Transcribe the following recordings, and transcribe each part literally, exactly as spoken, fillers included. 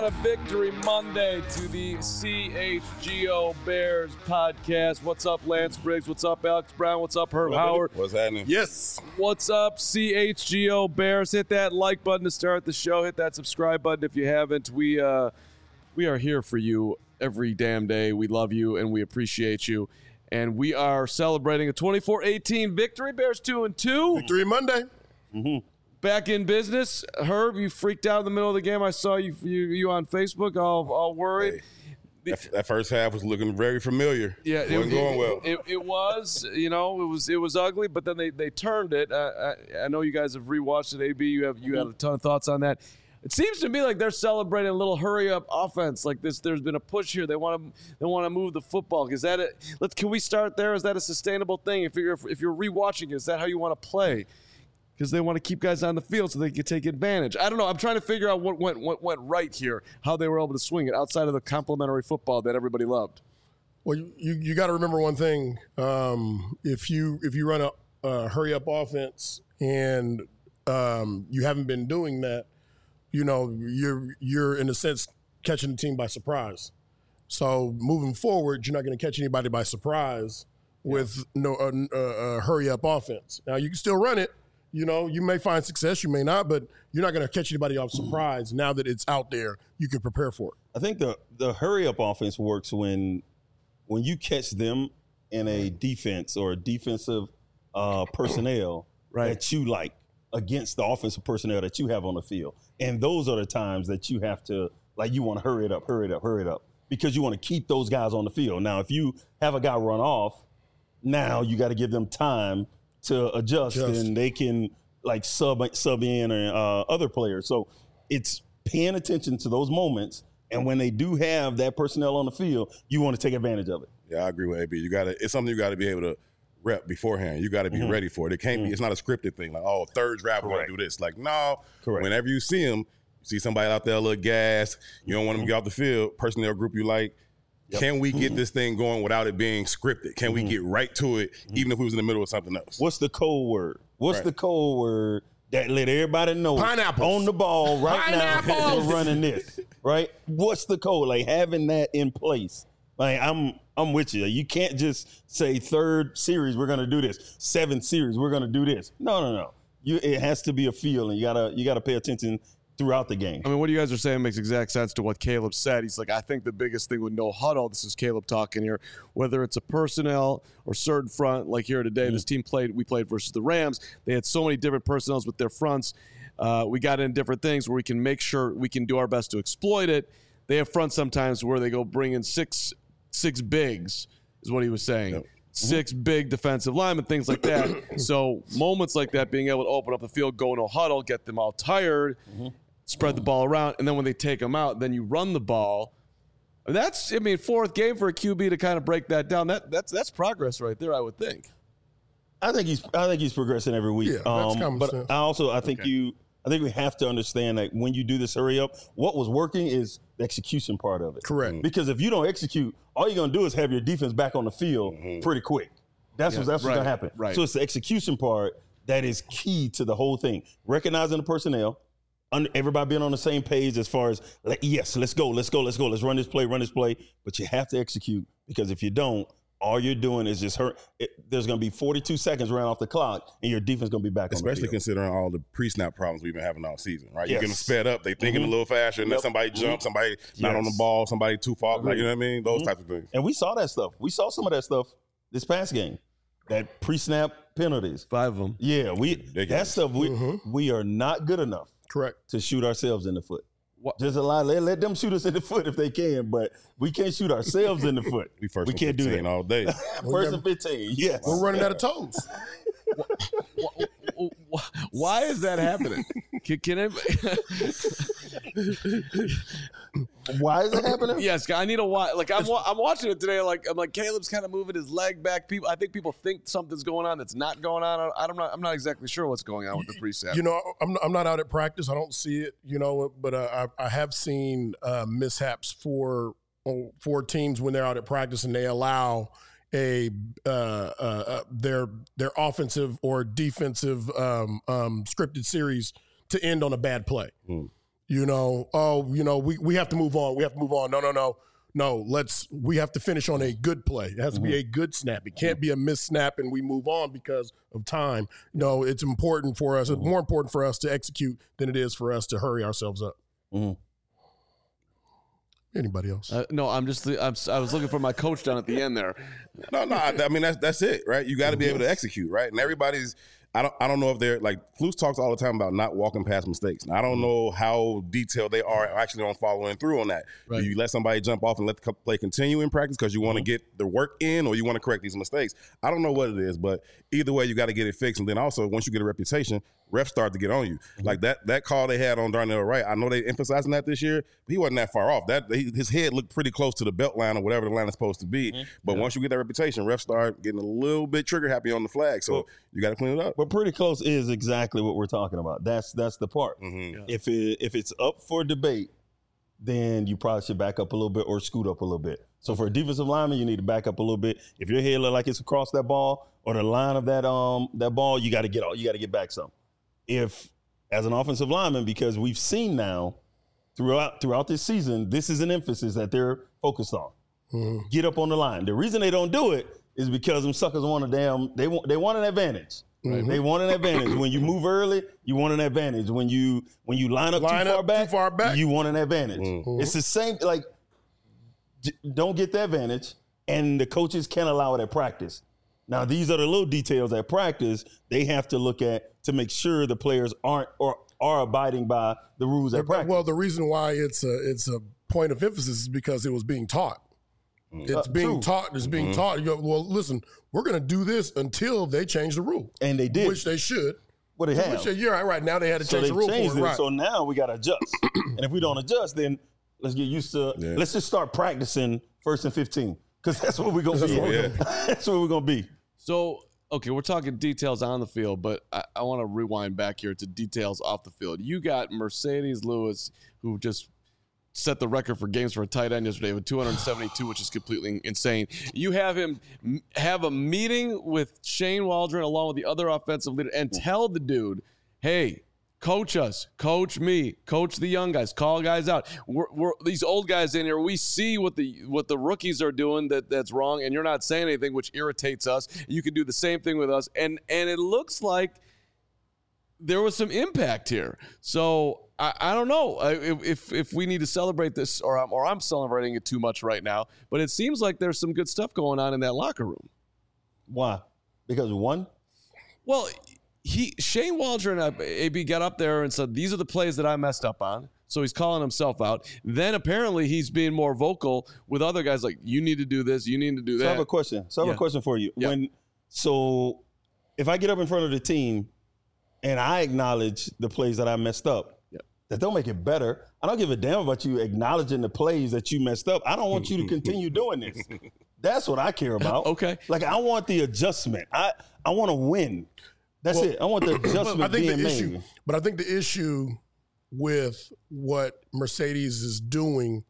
on a Victory Monday to the C H G O Bears podcast. What's up, Lance Briggs? What's up, Alex Brown? What's up, Herb Howard? What's happening? Yes. What's up, C H G O Bears? Hit that like button to start the show. Hit that subscribe button if you haven't. We uh, we are here for you every damn day. We love you and we appreciate you. And we are celebrating a twenty-four eighteen victory. Bears two and two. Victory Monday. Mm-hmm. Back in business. Herb, you freaked out in the middle of the game. I saw you you, you on Facebook all, all worried. Hey, that, that first half was looking very familiar. Yeah, it it wasn't going well. It, it was, you know, it was it was ugly, but then they, they turned it. Uh, I, I know you guys have rewatched it, A B. You have you have a ton of thoughts on that. It seems to me like they're celebrating a little hurry up offense. Like this, there's been a push here. They want to they want to move the football. Is that it? Let's can we start there? Is that a sustainable thing? If you're if you're rewatching, is that how you want to play? Because they want to keep guys on the field so they can take advantage. I don't know. I'm trying to figure out what went what went right here, how they were able to swing it outside of the complimentary football that everybody loved. Well, you you, you got to remember one thing. Um, if you if you run a uh, hurry up offense and um, you haven't been doing that, you know you're you're in a sense catching the team by surprise. So moving forward, you're not going to catch anybody by surprise with yeah. no a, a, a hurry up offense. Now you can still run it. You know, you may find success, you may not, but you're not going to catch anybody off surprise. Now that it's out there, you can prepare for it. I think the the hurry up offense works when when you catch them in a defense or a defensive uh, personnel right. that you like against the offensive personnel that you have on the field. And those are the times that you have to, like, you want to hurry it up, hurry it up, hurry it up, because you want to keep those guys on the field. Now, if you have a guy run off, now you got to give them time to adjust, Just. and they can like sub sub in or uh, other players. So it's paying attention to those moments, and when they do have that personnel on the field, you want to take advantage of it. Yeah, I agree with A B. You got to. It's something you got to be able to rep beforehand. You got to be mm-hmm. ready for it. It can't mm-hmm. be. It's not a scripted thing. Like, oh, third drive, we're going to do this. Like, no. Correct. Whenever you see them, you see somebody out there a little gas. You don't want them to get off the field. Personnel group you like. Yep. Can we get this thing going without it being scripted? Can mm-hmm. we get right to it, mm-hmm. even if we was in the middle of something else? What's the code word? What's right. the code word that let everybody know Pineapples. on the ball right now we're running this, right? What's the code? Like having that in place. Like I'm I'm with you. You can't just say third series we're gonna do this, seventh series we're gonna do this. No, no, no. You it has to be a feel, and you gotta you gotta pay attention throughout the game. I mean, what you guys are saying makes exact sense to what Caleb said. He's like, I think the biggest thing with no huddle, this is Caleb talking here, whether it's a personnel or certain front, like here today, mm-hmm. this team played, we played versus the Rams. They had so many different personnels with their fronts. Uh, we got in different things where we can make sure we can do our best to exploit it. They have fronts sometimes where they go bring in six, six bigs, is what he was saying. Yep. Six mm-hmm. big defensive linemen, things like that. So moments like that, being able to open up the field, go no huddle, get them all tired, mm-hmm. spread the ball around, and then when they take them out, then you run the ball. That's, I mean, fourth game for a Q B to kind of break that down. That that's that's progress right there, I would think. I think he's I think he's progressing every week. Yeah, that's um, but sense. I also I think okay. you I think we have to understand that when you do this hurry up, what was working is the execution part of it. Correct. Because if you don't execute, all you're gonna do is have your defense back on the field mm-hmm. pretty quick. That's yeah, what that's right, what's gonna happen. Right. So it's the execution part that is key to the whole thing. Recognizing the personnel. Everybody being on the same page as far as, like, yes, let's go, let's go, let's go, let's run this play, run this play. But you have to execute, because if you don't, all you're doing is just hurt. It, there's going to be forty-two seconds ran off the clock, and your defense going to be back Especially on the field. Considering all the pre-snap problems we've been having all season, right? Yes. You're getting sped up. They thinking mm-hmm. a little faster, and yep. then somebody mm-hmm. jumps, somebody yes. not on the ball, somebody too far. Like, you know what I mean? Those mm-hmm. types of things. And we saw that stuff. We saw some of that stuff this past game. That pre-snap penalties. Five of them. Yeah, we that stuff, we, mm-hmm. we are not good enough. Correct. To shoot ourselves in the foot. What? Just allow let, let them shoot us in the foot if they can, but we can't shoot ourselves in the foot. We first we and can't do that all day. First and fifteen, yes. We're running out of toes. Why is that happening? Can, can I, why is it happening? Yes, I need a why. Like I'm, I'm watching it today. Like I'm like Caleb's kind of moving his leg back. People, I think people think something's going on that's not going on. I don't know. I'm not exactly sure what's going on with the pre-snap. You know, I'm I'm not out at practice. I don't see it. You know, but uh, I I have seen uh, mishaps for for teams when they're out at practice and they allow a uh, uh, their their offensive or defensive um, um, scripted series to end on a bad play. Mm. You know, oh, you know, we, we have to move on. We have to move on. No, no, no. No, let's we have to finish on a good play. It has mm-hmm. to be a good snap. It can't be a missed snap and we move on because of time. No, it's important for us. Mm-hmm. It's more important for us to execute than it is for us to hurry ourselves up. Mm-hmm. Anybody else? Uh, no, I'm just I'm, I was looking for my coach down at the end there. No, no, I, I mean that's that's it, right? You got to be able to execute, right? And everybody's I don't I don't know if they're like Flus talks all the time about not walking past mistakes. And I don't know how detailed they are actually on following through on that. Right. Do you let somebody jump off and let the play continue in practice because you want to mm-hmm. get the work in or you want to correct these mistakes? I don't know what it is, but either way, you got to get it fixed. And then also, once you get a reputation, refs start to get on you. Mm-hmm. Like that that call they had on Darnell Wright, I know they emphasizing that this year, but he wasn't that far off. That he, his head looked pretty close to the belt line or whatever the line is supposed to be. Mm-hmm. But yeah. once you get that reputation, refs start getting a little bit trigger happy on the flag. So well, you got to clean it up. But pretty close is exactly what we're talking about. That's that's the part. Mm-hmm. Yeah. If it if it's up for debate, then you probably should back up a little bit or scoot up a little bit. So for a defensive lineman, you need to back up a little bit. If your head look like it's across that ball or the line of that um that ball, you got to get all you got to get back some. If as an offensive lineman, because we've seen now throughout throughout this season, this is an emphasis that they're focused on. Mm-hmm. Get up on the line. The reason they don't do it is because them suckers want a damn they want they want an advantage. Mm-hmm. They want an advantage. When you move early, you want an advantage. When you when you line up, line too, far up back, too far back, you want an advantage. Mm-hmm. It's the same. Like, don't get the advantage, and the coaches can't allow it at practice. Now, these are the little details at practice they have to look at to make sure the players aren't or are abiding by the rules at practice. Well, the reason why it's a it's a point of emphasis is because it was being taught. It's uh, being true. taught. It's being mm-hmm. taught. You go, well, listen, we're going to do this until they change the rule. And they did. Which they should. Well, they have. Which, you're right, right. Now they had to so change the rule for it. it. Right. So now we got to adjust. And if we don't adjust, then let's get used to, yeah. let's just start practicing first and fifteen. Because that's what we're going to be. Yeah. That's what we're going to be. So, okay, we're talking details on the field, but I, I want to rewind back here to details off the field. You got Marcedes Lewis, who just set the record for games for a tight end yesterday with two hundred seventy-two, which is completely insane. You have him have a meeting with Shane Waldron along with the other offensive leader and tell the dude, hey, coach us, coach me, coach the young guys, call guys out. We're, we're these old guys in here, we see what the what the rookies are doing that, that's wrong, and you're not saying anything, which irritates us. You can do the same thing with us. And and it looks like there was some impact here. So I, I don't know if if we need to celebrate this or I'm, or I'm celebrating it too much right now, but it seems like there's some good stuff going on in that locker room. Why? Because one? Well, he Shane Waldron, A B, got up there and said, these are the plays that I messed up on. So he's calling himself out. Then apparently he's being more vocal with other guys like, you need to do this, you need to do that. So I have a question. So I have yeah. a question for you. Yeah. When So if I get up in front of the team and I acknowledge the plays that I messed up, yep. that don't make it better. I don't give a damn about you acknowledging the plays that you messed up. I don't want you to continue doing this. That's what I care about. Okay. Like, I want the adjustment. I, I want to win. That's well, it. I want the adjustment I think being the issue, made. But I think the issue with what Marcedes is doing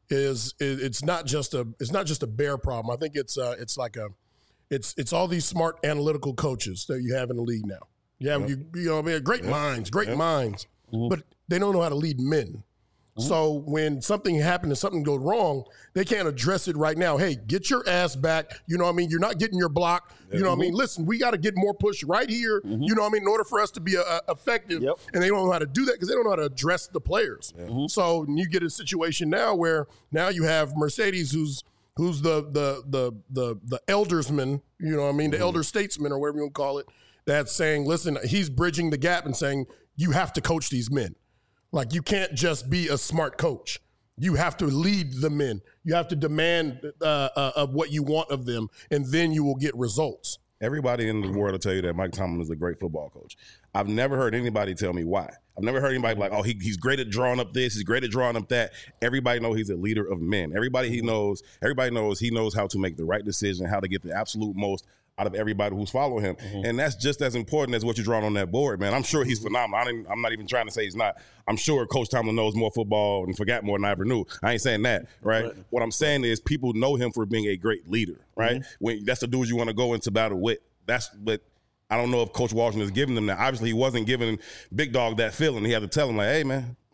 is it, it's not just a it's not just a Bear problem. I think it's uh, it's like a it's it's all these smart analytical coaches that you have in the league now. You have, yep. you, you know, man, great yep. minds, great yep. minds, mm-hmm. but they don't know how to lead men. Mm-hmm. So when something happens and something goes wrong, they can't address it right now. Hey, get your ass back. You know what I mean? You're not getting your block. You know mm-hmm. what I mean? Listen, we got to get more push right here. Mm-hmm. You know what I mean? In order for us to be uh, effective. Yep. And they don't know how to do that because they don't know how to address the players. Mm-hmm. So you get a situation now where now you have Marcedes who's who's the the the the the eldersman, you know what I mean? The mm-hmm. elder statesman or whatever you want to call it. That's saying, listen, he's bridging the gap and saying, you have to coach these men. Like, you can't just be a smart coach. You have to lead the men. You have to demand uh, uh, of what you want of them, and then you will get results. Everybody in the world will tell you that Mike Tomlin is a great football coach. I've never heard anybody tell me why. I've never heard anybody like, oh, he, he's great at drawing up this, he's great at drawing up that. Everybody knows he's a leader of men. Everybody he knows, everybody knows he knows how to make the right decision, how to get the absolute most out of everybody who's following him. Mm-hmm. And that's just as important as what you're drawing on that board, man. I'm sure he's phenomenal. I didn't, I'm not even trying to say he's not. I'm sure Coach Tomlin knows more football and forgot more than I ever knew. I ain't saying that, right? right. What I'm saying is people know him for being a great leader, right? Mm-hmm. When that's the dudes you want to go into battle with. That's what I don't know if Coach Washington is giving them that. Obviously, he wasn't giving Big Dog that feeling. He had to tell him, like, hey, man,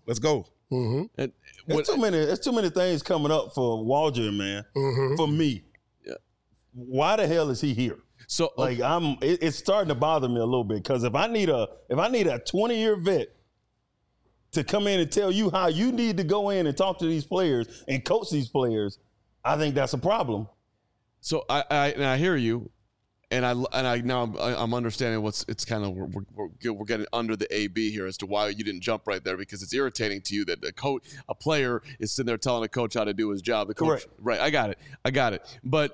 let's go. Mm-hmm. And There's too many. There's too many things coming up for Waldron, man. Mm-hmm. For me, yeah. Why the hell is he here? So like, I'm. It, it's starting to bother me a little bit because if I need a if I need a twenty year vet to come in and tell you how you need to go in and talk to these players and coach these players, I think that's a problem. So I I, and I hear you. And I and I now I'm, I'm understanding what's it's kind of we're, we're, we're getting under the A B here as to why you didn't jump right there, because it's irritating to you that a coach a player is sitting there telling a coach how to do his job. The coach, Correct. Right, I got it, I got it. But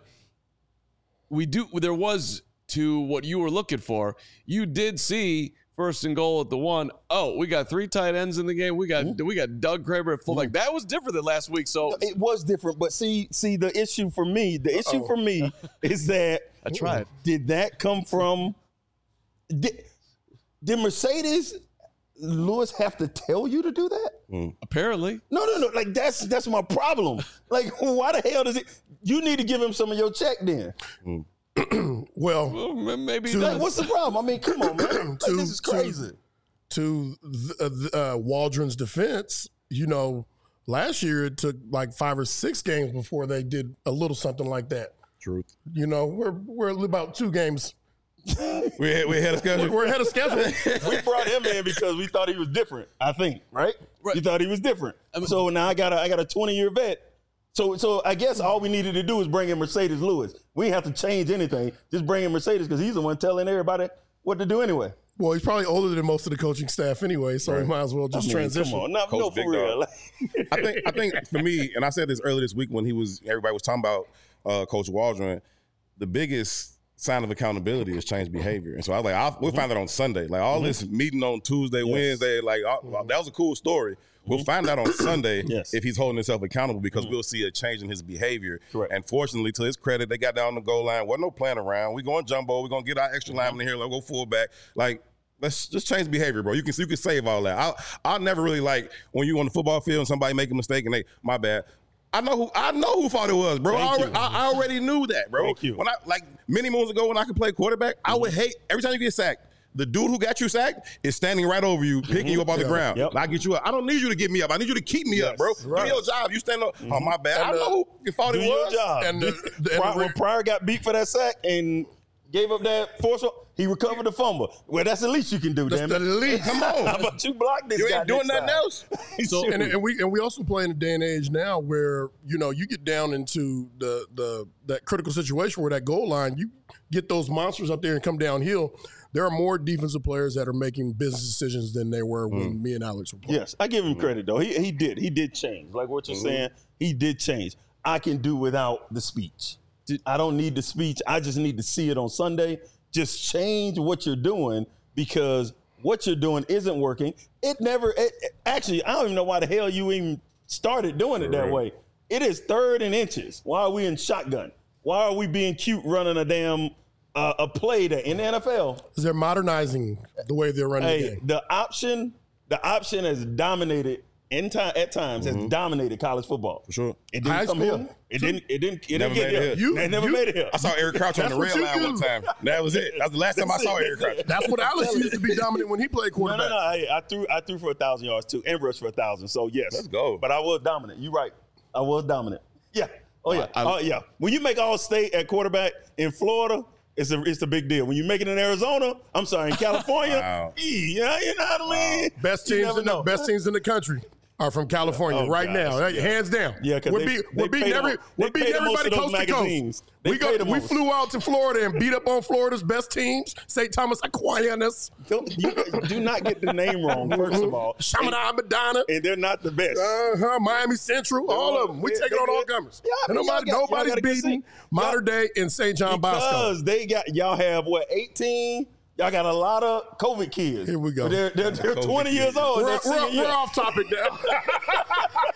we do. There was to what you were looking for. You did see first and goal at the one. Oh, we got three tight ends in the game. We got mm-hmm. we got Doug Kramer at fullback. Mm-hmm. That was different than last week. So it was different. But see, see the issue for me, the issue Uh-oh. for me is that I tried. Did that come from? Did, did Mercedes Lewis have to tell you to do that? Mm. Apparently. No, no, no. Like that's that's my problem. Like, why the hell does it? You need to give him some of your check then. Mm. well, well, maybe. To, like, what's the problem? I mean, come on, man. Like, to, this is crazy. To, to the, uh, Waldron's defense, you know, last year it took like five or six games before they did a little something like that. Truth. You know, we're we're about two games. we we ahead of schedule. We're ahead of schedule. We brought him in because we thought he was different. I think, right? right. You thought he was different. I mean, so now I got a I got a twenty year vet. So so I guess all we needed to do is bring in Mercedes Lewis. We didn't have to change anything. Just bring in Mercedes because he's the one telling everybody what to do anyway. Well, he's probably older than most of the coaching staff anyway, so right. we might as well just I mean, transition. Come on, not, no, for real. I think I think for me, and I said this earlier this week when he was everybody was talking about uh, Coach Waldron, the biggest sign of accountability is change behavior. And so I was like, I'll, we'll mm-hmm. find it on Sunday. Like all mm-hmm. this meeting on Tuesday, yes. Wednesday, like all, mm-hmm. that was a cool story. We'll find out on Sunday yes. if he's holding himself accountable because mm-hmm. we'll see a change in his behavior. Correct. And fortunately, to his credit, they got down the goal line. Wasn't no playing around. We're going jumbo. We're going to get our extra mm-hmm. lineman in here. Let's go fullback. Like, let's just change behavior, bro. You can you can save all that. I'll, I'll never really like when you on the football field and somebody make a mistake and they, my bad. I know who I know who thought it was, bro. I already, I, I already knew that, bro. Thank you. When I like many moons ago when I could play quarterback, mm-hmm. I would hate every time you get sacked. The dude who got you sacked is standing right over you, picking mm-hmm. you up off yeah. the ground. Yep. I get you up. I don't need you to get me up. I need you to keep me yes. up, bro. Right. Do your job. You stand up. Mm-hmm. Oh, my bad. And I know who you thought do it was. Your job. And, the, the, and Pryor, when Pryor got beat for that sack and gave up that force, he recovered the fumble. Well, that's the least you can do, that's damn the it. least. Come on. How about you block this you guy? You ain't doing nothing side. else. So, and, and we and we also play in a day and age now where, you know, you get down into the the that critical situation where that goal line, you get those monsters up there and come downhill. There are more defensive players that are making business decisions than there were when mm. me and Alex were playing. Yes, I give him credit, though. He he did. He did change. Like what you're mm-hmm. saying, he did change. I can do without the speech. I don't need the speech. I just need to see it on Sunday. Just change what you're doing because what you're doing isn't working. It never it, – actually, I don't even know why the hell you even started doing it that right. way. It is third and inches. Why are we in shotgun? Why are we being cute running a damn uh, a play that in the N F L? They're modernizing the way they're running hey, the game. The option, the option has dominated in time at times mm-hmm. has dominated college football. For sure. It didn't High come school, here. It didn't. It didn't. It never didn't get here. You, they never you, made it here. I saw Eric Crouch on the rail line one time. That was it. That was the last time I saw Eric Crouch. That's what Alex used to be dominant when he played quarterback. No, no, no. I, I threw. I threw for a thousand yards too, and rushed for a thousand. So yes, let's go. But I was dominant. You're right. I was dominant. Yeah. Oh yeah. I, I, oh yeah. When you make all state at quarterback in Florida, it's a it's a big deal. When you make it in Arizona, I'm sorry, in California, wow. yeah, you know what I mean. Wow. Best teams in the best teams in the country are from California oh, right gosh, now, yeah. hands down. Yeah, because we're, they, be, they we're beating every, we're beating everybody coast to coast. We go, we flew out to Florida and beat up on Florida's best teams, Saint Thomas Aquinas. Don't, you, do not get the name wrong, first of all. Chaminade Madonna. And they're not the best. Uh-huh, Miami Central, all of them. We take it on all comers. Yeah, I mean, nobody, got, nobody's beating Modern Day in Saint John Bosco. Because they got, y'all have, what, eighteen? Y'all got a lot of COVID kids. Here we go. They're, they're, they're twenty kids. years old. We're, we're, we're off topic now.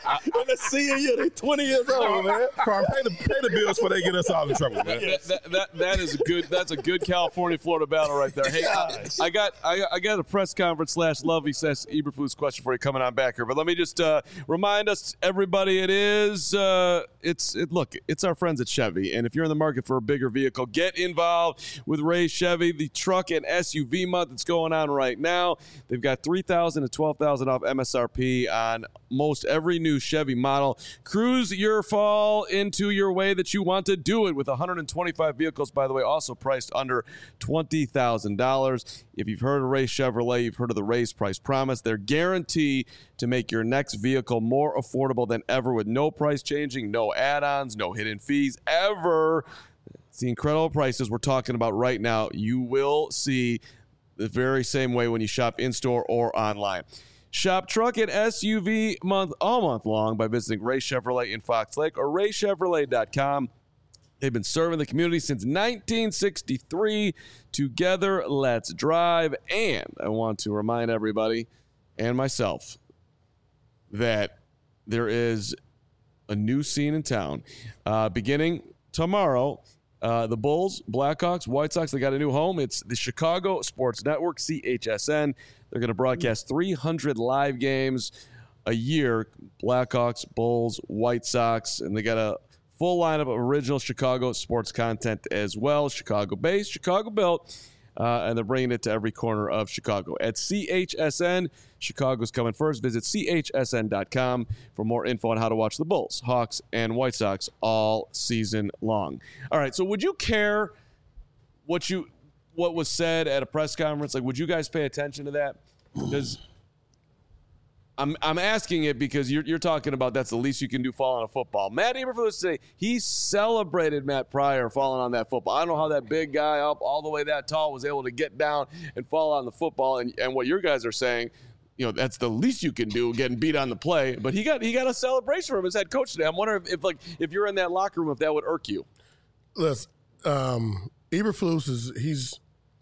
In the senior year, they twenty years old, man. Carm, pay the pay the bills before they get us all in trouble, man. That, that, that, that is a good. That's a good California Florida battle right there. Hey, I, I got I, I got a press conference slash Lovey says Eberflus question for you coming on back here, but let me just uh, remind us, everybody, it is uh, it's it, look, it's our friends at Chevy, and if you're in the market for a bigger vehicle, get involved with Ray Chevy. The truck and S U V month that's going on right now. They've got three thousand to twelve thousand off M S R P on most every new Chevy model. Cruise your fall into your way that you want to do it with one hundred twenty-five vehicles, by the way, also priced under twenty thousand dollars. If you've heard of Ray Chevrolet, you've heard of the Raise Price Promise. They're guaranteed to make your next vehicle more affordable than ever with no price changing, no add-ons, no hidden fees ever. It's the incredible prices we're talking about right now. You will see the very same way when you shop in-store or online. Shop truck and S U V month all month long by visiting Ray Chevrolet in Fox Lake or ray chevrolet dot com. They've been serving the community since nineteen sixty-three. Together, let's drive. And I want to remind everybody and myself that there is a new scene in town. Uh, beginning tomorrow, uh, the Bulls, Blackhawks, White Sox, they got a new home. It's the Chicago Sports Network, C H S N. They're going to broadcast three hundred live games a year, Blackhawks, Bulls, White Sox, and they got a full lineup of original Chicago sports content as well. Chicago-based, Chicago-built, uh, and they're bringing it to every corner of Chicago. At C H S N, Chicago's coming first. Visit C H S N dot com for more info on how to watch the Bulls, Hawks, and White Sox all season long. All right, so would you care what you what was said at a press conference? Like, would you guys pay attention to that? Because I'm I'm asking it because you're you're talking about that's the least you can do falling on a football. Matt Eberflus today, he celebrated Matt Pryor falling on that football. I don't know how that big guy up all the way that tall was able to get down and fall on the football. And and what your guys are saying, you know, that's the least you can do, getting beat on the play. But he got he got a celebration from his head coach today. I'm wondering if, if like if you're in that locker room, if that would irk you. Listen, um, Eberflus is he's.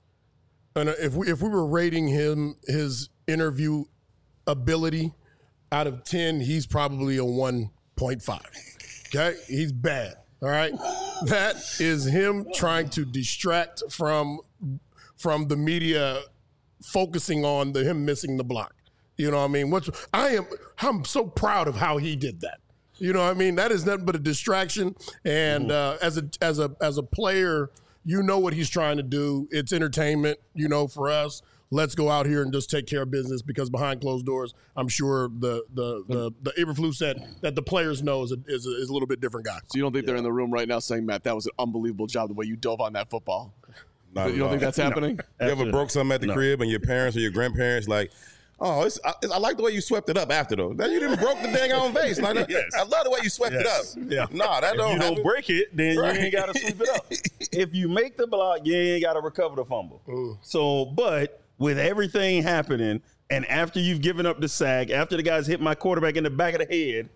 And if we if we were rating him his interview ability out of ten, he's probably a one point five. Okay, he's bad. All right, that is him trying to distract from from the media focusing on the him missing the block. You know what I mean? What's I am I'm so proud of how he did that. You know what I mean? That is nothing but a distraction. And uh, as a as a as a player, you know what he's trying to do. It's entertainment, you know, for us. Let's go out here and just take care of business because behind closed doors, I'm sure the the the, the Eberflus that, that the players know is a, is, a, is a little bit different guy. So you don't think yeah. they're in the room right now saying, Matt, that was an unbelievable job the way you dove on that football? Not you don't think that's happening? No. You ever broke something at the no. crib and your parents or your grandparents like, oh, it's, I, I like the way you swept it up after though. Now you didn't broke the dang on vase. Like, yes. I love the way you swept yes. it up. Yeah. Nah, that if don't. You happen. don't break it, then right. you ain't got to sweep it up. If you make the block, you ain't got to recover the fumble. Ooh. So, but with everything happening, and after you've given up the sack, after the guys hit my quarterback in the back of the head,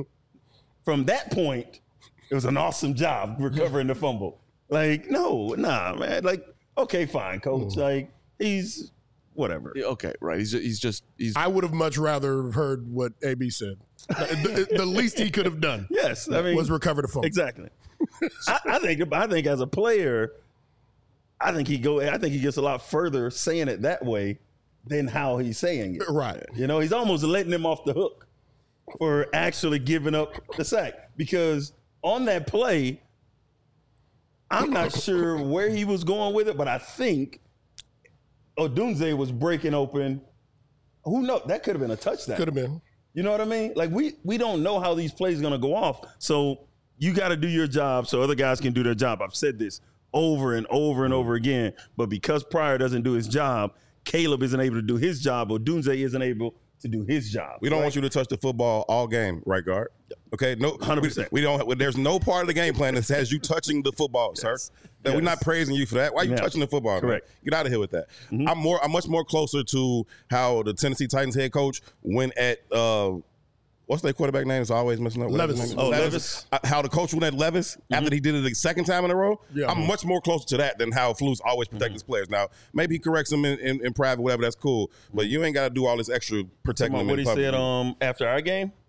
from that point, it was an awesome job recovering the fumble. Like, no, nah, man. Like, okay, fine, coach. Ooh. Like, he's. Whatever. Okay, right. He's just, he's just he's. I would have much rather heard what A B said. the, the least he could have done, yes, I mean, was recover the phone. Exactly. I, I think. I think as a player, I think he go. I think he gets a lot further saying it that way than how he's saying it. Right. You know, he's almost letting him off the hook for actually giving up the sack because on that play, I'm not sure where he was going with it, but I think Odunze was breaking open. Who knows? That could have been a touchdown. Could have been. You know what I mean? Like, we we don't know how these plays are going to go off. So you got to do your job so other guys can do their job. I've said this over and over and over again. But because Pryor doesn't do his job, Caleb isn't able to do his job. Odunze isn't able to do his job. We don't right? want you to touch the football all game, right guard? Okay, no, one hundred percent. We, we don't. There's no part of the game plan that says you touching the football, yes. sir. Yes. We're not praising you for that. Why are you yeah. touching the football? Correct. Man? Get out of here with that. Mm-hmm. I'm more. I'm much more closer to how the Tennessee Titans head coach went at. Uh, What's their quarterback name? It's always messing up. Levis. Oh, Levis. Levis. Uh, how the coach went at Levis mm-hmm. after he did it the second time in a row. Yeah. I'm much more closer to that than how Flus always protect mm-hmm. his players. Now, maybe he corrects them in, in, in private, whatever. That's cool. But you ain't got to do all this extra protecting them what in he public. said um, after our game?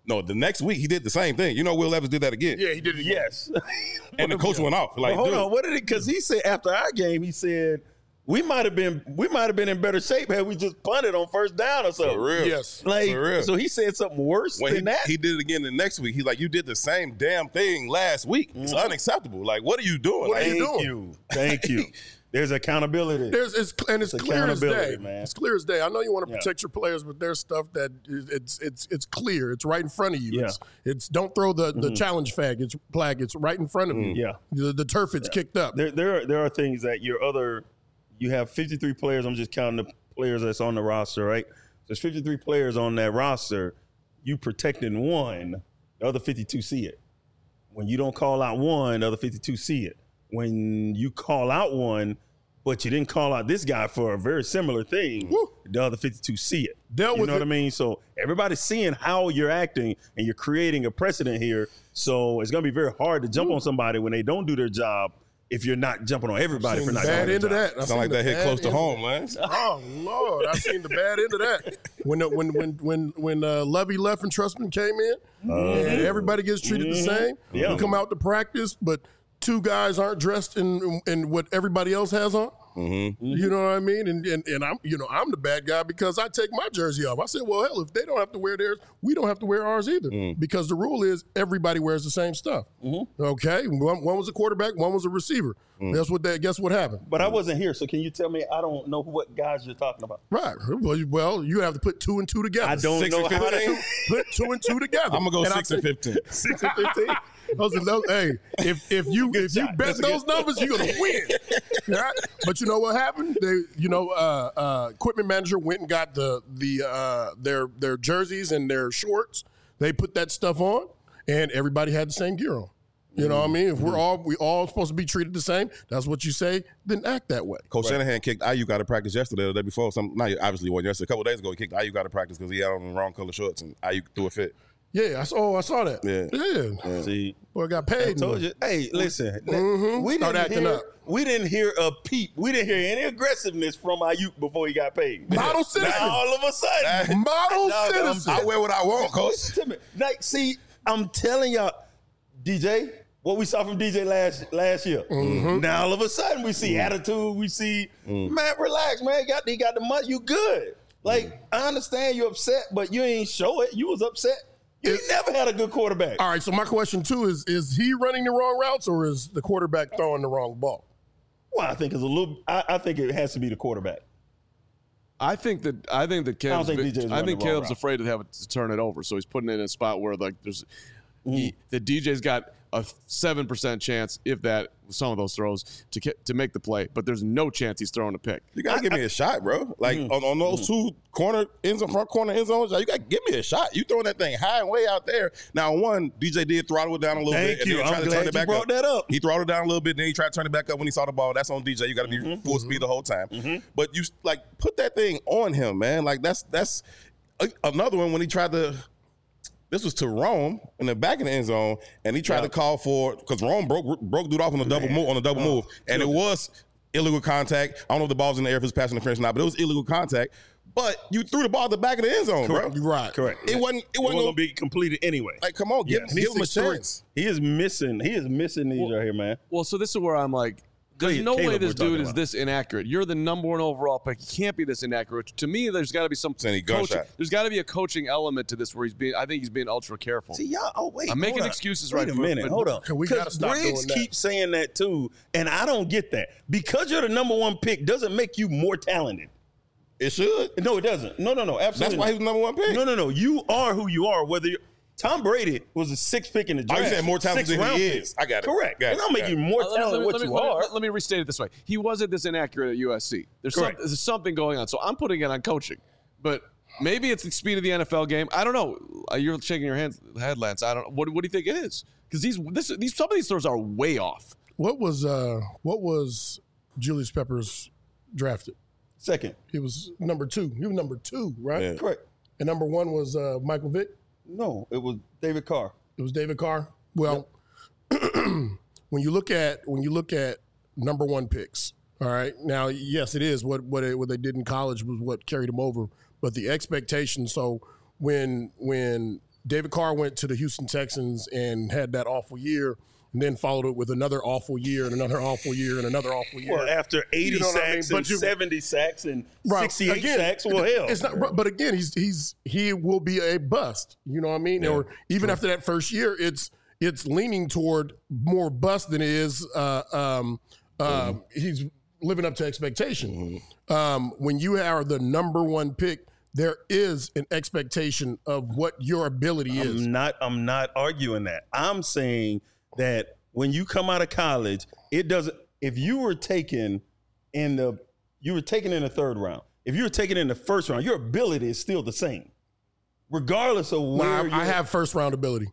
No, the next week he did the same thing. You know, Will Levis did that again. Yeah, he did it. Yes. And the coach went off. Like, well, hold dude. on, what did it? Because he said after our game, he said we might have been we might have been in better shape had we just punted on first down or something. For real. Yes. Like, For real. so he said something worse When than he, that. he did it again the next week. He's like, you did the same damn thing last week. It's Mm-hmm. unacceptable. Like, what are you doing? What are Like, you Thank doing? you. Thank you. There's accountability. There's it's and it's, It's clear as day. accountability, man. It's clear as day. I know you want to Yeah. protect your players, but there's stuff that is, it's it's it's clear. It's right in front of you. Yeah. It's it's don't throw the, the challenge flag. It's flag. It's right in front of you. Yeah. The, the turf it's kicked up. There, there, are, there are things that your other, you have fifty-three players. I'm just counting the players that's on the roster, right? There's fifty-three players on that roster. You protecting one, the other fifty-two see it. When you don't call out one, the other fifty-two see it. When you call out one, but you didn't call out this guy for a very similar thing, Woo. the other fifty-two see it. Dealt you with know what it. I mean? So everybody's seeing how you're acting, and you're creating a precedent here. So it's going to be very hard to jump on somebody when they don't do their job if you're not jumping on everybody Seen for the not bad doing end their of job. that. I sound seen like the that hit bad close to end- home, Lance. Oh Lord, I seen the bad end of that. When the, when when when when uh, Levy left and Trustman came in, and everybody gets treated the same. Yeah. You come out to practice, but two guys aren't dressed in in what everybody else has on. Mm-hmm. You know what I mean? And, and and I'm you know I'm the bad guy because I take my jersey off. I said, well, hell, if they don't have to wear theirs, we don't have to wear ours either. Mm. Because the rule is everybody wears the same stuff. Okay, one, one was a quarterback, one was a receiver. Mm. That's what they guess what happened. But I wasn't here, so can you tell me? I don't know what guys you're talking about. Right. Well, you- Well, you have to put two and two together. I don't Six know and how fifteen? to. put two and two together. I'm gonna go And I six and think- fifteen. Six and fifteen. Those are those, hey, if if you if you shot. bet That's a those good- numbers, you're gonna win. Right? But you know what happened? They, you know, uh, uh, equipment manager went and got the the uh, their their jerseys and their shorts. They put that stuff on, and everybody had the same gear on. You know what I mean? If we're all we all supposed to be treated the same, that's what you say. Then act that way. Coach Shanahan kicked Ayuk out of practice yesterday or the day before. Some, not obviously wasn't yesterday. A couple of days ago, he kicked Ayuk out of practice because he had on the wrong color shorts and Ayuk threw a fit. Yeah, I saw. Oh, I saw that. Yeah. yeah. See, Boy, got I paid. told you. Hey, listen. Mhm. We Start didn't acting hear. up. We didn't hear a peep. We didn't hear any aggressiveness from Ayuk before he got paid. Model citizen. Now all of a sudden, Model No, I'm- citizen. I wear what I want, Coach. Listen to me. Like, see, I'm telling y'all, D J, what we saw from D J last last year. Mm-hmm. Now all of a sudden we see attitude. We see, man, relax, man. He got he got the money. You good? Like, I understand you're upset, but you ain't show it. You was upset. You never had a good quarterback. All right, so my question too is: Is he running the wrong routes, or is the quarterback throwing the wrong ball? Well, I think it's a little. I, I think it has to be the quarterback. I think that I think that Caleb's, think been- D J's I running think the wrong Caleb's route. afraid to have it to turn it over, so he's putting it in a spot where like there's Mm. he, the D J's got a seven percent chance, if that, some of those throws to get, to make the play, but there's no chance he's throwing a pick. You gotta give me a shot, bro. Like Mm. on, on those two corner end zone, front corner end zones, you gotta give me a shot. You throwing that thing high and way out there. Now, one, D J did throttle it down a little Thank bit. you. And then I'm tried to glad turn you it back brought up. that up. He throttled it down a little bit, then he tried to turn it back up when he saw the ball. That's on D J. You gotta be Mm-hmm. full speed the whole time. But you like put that thing on him, man. Like that's that's a, another one when he tried to. This was to Rome in the back of the end zone, and he tried Yeah. to call for because Rome broke broke dude off on a double move on a double move, and it was illegal contact. I don't know if the ball's in the air if it's passing interference or not, but it was illegal contact. But you threw the ball at the back of the end zone, bro. You're right. Correct. It wasn't. It It wasn't wasn't gonna gonna be completed anyway. like. Come on, give, Yes. give him a He's six three. chance. He is missing. He is missing these right here, man. Well, so this is where I'm like, there's Caleb no way we're this talking dude is about. this inaccurate. You're the number one overall pick. He can't be this inaccurate. To me, there's got to be some Any coaching. gunshot. There's got to be a coaching element to this where he's being. I think he's being ultra careful. See, y'all. Oh wait, I'm making hold on. excuses Wait right a for- minute. but- Hold on. We gotta Because stop Briggs doing that. keeps saying that too, and I don't get that. Because you're the number one pick doesn't make you more talented. It should. No, it doesn't. No, no, no. Absolutely. That's why he was the number one pick. No, no, no. You are who you are. Whether you're, Tom Brady was a sixth pick in the Oh, draft. you saying more talented Sixth than he round pick. is. I got it. Correct. Got it. It don't make Got you it. more Uh, let me- talented than what let me- you let me- are. let- Let me restate it this way: he wasn't this inaccurate at U S C. There's, some, Correct. there's something going on. So I'm putting it on coaching, but maybe it's the speed of the N F L game. I don't know. Uh, You're shaking your hands, head, Lance. I don't. What, what do you think it is? Because these, this, these, some of these throws are way off. What was uh what was Julius Peppers drafted? Second. He was number two. He was number two, right? Yeah. Correct. And number one was uh, Michael Vick. No, it was David Carr. It was David Carr. Well, when you look at when you look at number one picks, all right. Now, yes, it is what what, it, what they did in college was what carried them over, but the expectation. So when when David Carr went to the Houston Texans and had that awful year, and then followed it with another awful year and another awful year and another awful year. Well, after eighty you know sacks I mean? and you, seventy sacks and right. sixty-eight again, sacks, well, hell. It's not, but again, he's he's he will be a bust. You know what I mean? Yeah. Or even sure. after that first year, it's it's leaning toward more bust than it is. Uh, um, uh, mm-hmm. He's living up to expectation. Mm-hmm. Um, when you are the number one pick, there is an expectation of what your ability I'm is. Not, I'm not arguing that. I'm saying that when you come out of college, it doesn't. If you were taken in the, you were taken in the third round. If you were taken in the first round, your ability is still the same, regardless of where. No, I, I have first round ability.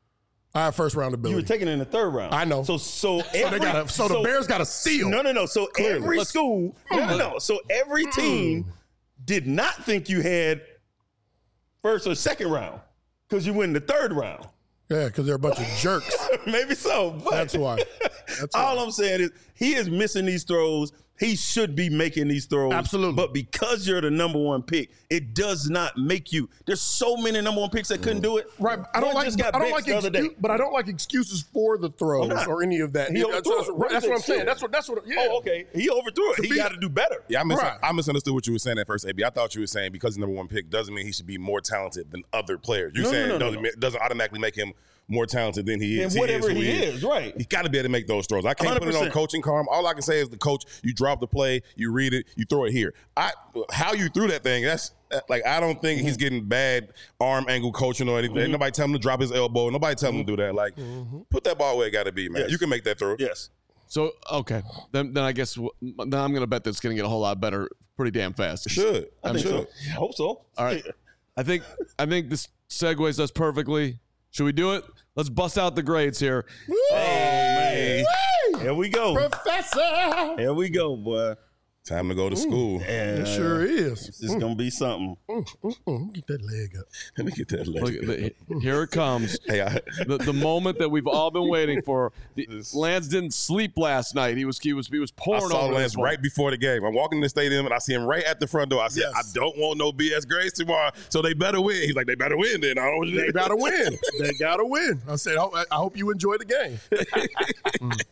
I have first round ability. You were taken in the third round. I know. So, so, every, so, they gotta, so, so the Bears got to steal. No, no, no. So Clearly. every Let's, school, no, no, no. So every team mm. did not think you had first or second round because you win the third round. Yeah, because they're a bunch of jerks. Maybe so. But That's why. That's all why. I'm saying is he is missing these throws. He should be making these throws. Absolutely. But because you're the number one pick, it does not make you. There's so many number one picks that couldn't do it. Right. I don't one like. I don't like excuse, but I don't like excuses for the throws or any of that. He that's that's, what, that's what I'm saying. That's what. That's what. Yeah. Oh, okay. He overthrew it. To he got to do better. Yeah, I, mis- right. I misunderstood what you were saying at first, A B. I thought you were saying because he's number one pick doesn't mean he should be more talented than other players. You're no, saying no, no, doesn't, no. doesn't automatically make him more talented than he is. And whatever he is, he, he is, is, right. He's got to be able to make those throws. I can't one hundred percent. put it on coaching karma. All I can say is the coach, you drop the play, you read it, you throw it here. I How you threw that thing, that's like, I don't think mm-hmm. he's getting bad arm angle coaching or anything. Mm-hmm. Nobody tell him to drop his elbow. Nobody tell him mm-hmm. to do that. Like, mm-hmm. put that ball where it got to be, man. Yes. You can make that throw. Yes. So, okay. Then then I guess then I'm going to bet that's going to get a whole lot better pretty damn fast. It should. I, I think should. So. I hope so. All right. I think I think this segues us perfectly. Should we do it? Let's bust out the grades here. Woo! Hey, man. Here we go. Professor. Here we go, boy. Time to go to school. And, it sure is. It's just mm. going to be something. Mm, mm, mm. Get that leg up. Let me get that leg Look, up. The, here it comes. Hey, I, the, the moment that we've all been waiting for. The, Lance didn't sleep last night. He was he was he was pouring I saw over Lance right before the game. I'm walking in the stadium and I see him right at the front door. I said, yes. I don't want no B S grades tomorrow, so they better win. He's like, they better win then. I don't they gotta win. They gotta win. I said, I, I hope you enjoy the game. mm.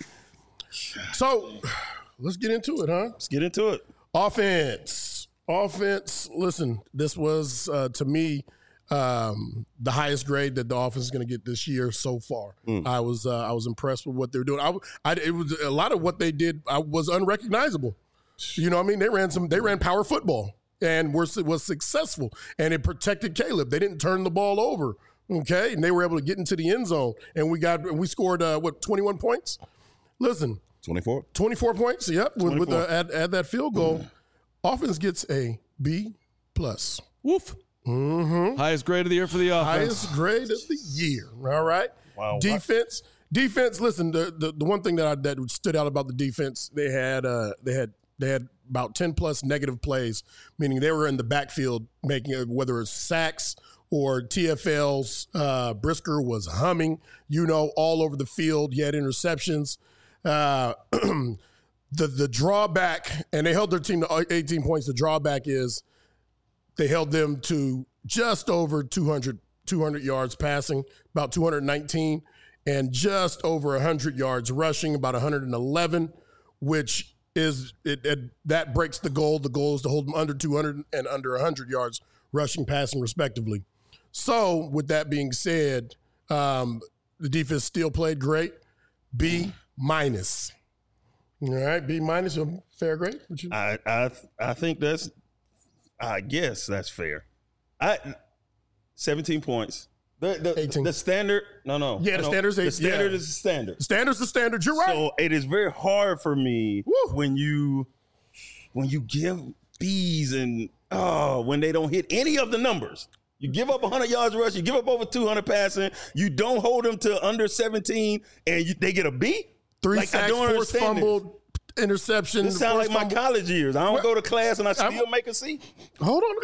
So let's get into it, huh? Let's get into it. Offense. Offense. Listen, this was, uh, to me, um, the highest grade that the offense is going to get this year so far. Mm. I was uh, I was impressed with what they were doing. I, I, it was a lot of what they did I was unrecognizable. You know what I mean? They ran some. They ran power football and were, was successful. And it protected Caleb. They didn't turn the ball over. Okay, and they were able to get into the end zone. And we got we scored uh, what twenty-one points. Listen. twenty-four twenty-four points, yep, with, with the, add, add that field goal. Mm. Offense gets a B plus. Woof. Mm-hmm. Highest grade of the year for the offense. Highest grade of the year, all right? Wow. Defense. What? Defense, listen, the, the the one thing that I, that stood out about the defense, they had uh, they had they had about ten plus negative plays, meaning they were in the backfield making it, whether it's sacks or T F Ls. Uh, Brisker was humming, you know, all over the field. You had interceptions. Uh, the the drawback, and they held their team to eighteen points. The drawback is they held them to just over two hundred, two hundred yards passing, about two hundred nineteen, and just over one hundred yards rushing, about one hundred eleven, which is it, it, that breaks the goal. The goal is to hold them under two hundred and under one hundred yards rushing, passing, respectively. So, with that being said, um, the defense still played great. B minus. All right, B minus, a fair grade? You- I I I think that's, I guess that's fair. I seventeen points. The the, eighteen. The standard, no, no. Yeah, the no, standard's eight. The standard yeah. is the standard. The standard's the standard. You're right. So it is very hard for me Woo. when you when you give B's and oh when they don't hit any of the numbers. You give up one hundred yards rush, you give up over two hundred passing, you don't hold them to under seventeen, and you, they get a B? Three like, sacks, forced fumbled, interception. This sounds like my fumble. college years. I don't What? go to class and I still I'm, make a C. Hold on.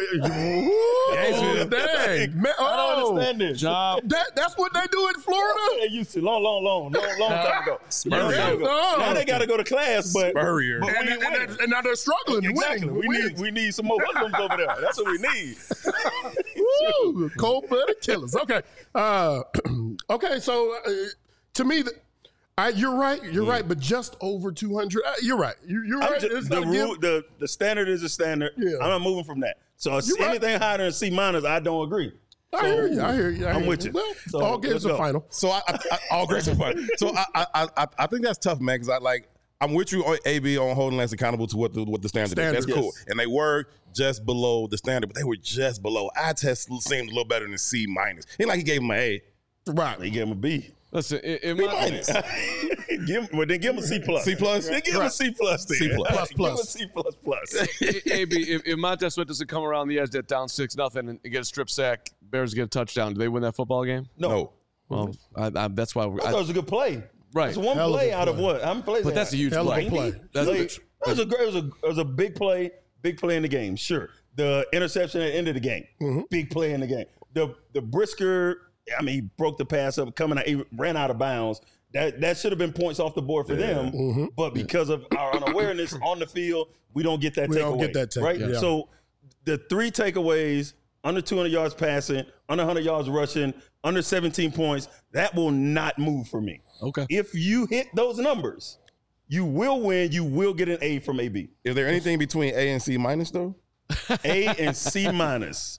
Oh, dang. Man, oh, I don't understand this. Job. That, that's what they do in Florida? They used to long, long, long, long, long time ago. Long time ago. No. Now they got to go to class, but, Spurrier. but we And, need and, winners. and, and now they're struggling. Exactly. Winning, We winning. need we need some more hoodlums over there. That's what we need. Woo, cold-blooded killers. Okay. Uh, okay, so uh, to me, the, I, you're right. You're mm. right, but just over two hundred. Uh, you're right. You're, you're right. Just, the, rule, the the standard is a standard. Yeah. I'm not moving from that. So anything right. higher than C minus, I don't agree. I so, hear you. I hear you. I I'm hear with you. you. Well, so, all games are final. So I, I, I all games are final. So I, I, I, I think that's tough, man. Because I like I'm with you on A B on holding Lance accountable to what the what the standard, standard is. That's yes. cool. And they were just below the standard, but they were just below. Eye test seemed a little better than C minus. Ain't like he gave him an A. Right. He gave him a B. Listen, it, it B minus. give, well, then give him a C plus. C plus. Then give him right. a C plus. Then. C plus. plus, plus. Give him a C plus plus. A B, if, if Montez Sweat doesn't come around the edge, that down six nothing, and get a strip sack, Bears get a touchdown. Do they win that football game? No. no. Well, I, I, that's why. We're, I thought it was a good play. Right. It's one Hell play of out play. of what? How many plays? But that's a huge Hell play. Of a play. That's like, a, it was a great. It was a, it was a big play. Big play in the game. Sure. The interception at the end of the game. Mm-hmm. Big play in the game. The the Brisker. I mean, he broke the pass up, coming out, he ran out of bounds. That that should have been points off the board for yeah. them. Mm-hmm. But because of our unawareness on the field, we don't get that we takeaway. don't get that take, right? Yeah. So the three takeaways, under two hundred yards passing, under one hundred yards rushing, under seventeen points, that will not move for me. Okay. If you hit those numbers, you will win. You will get an A from A B. Is there anything between A and C minus, though? A and C minus.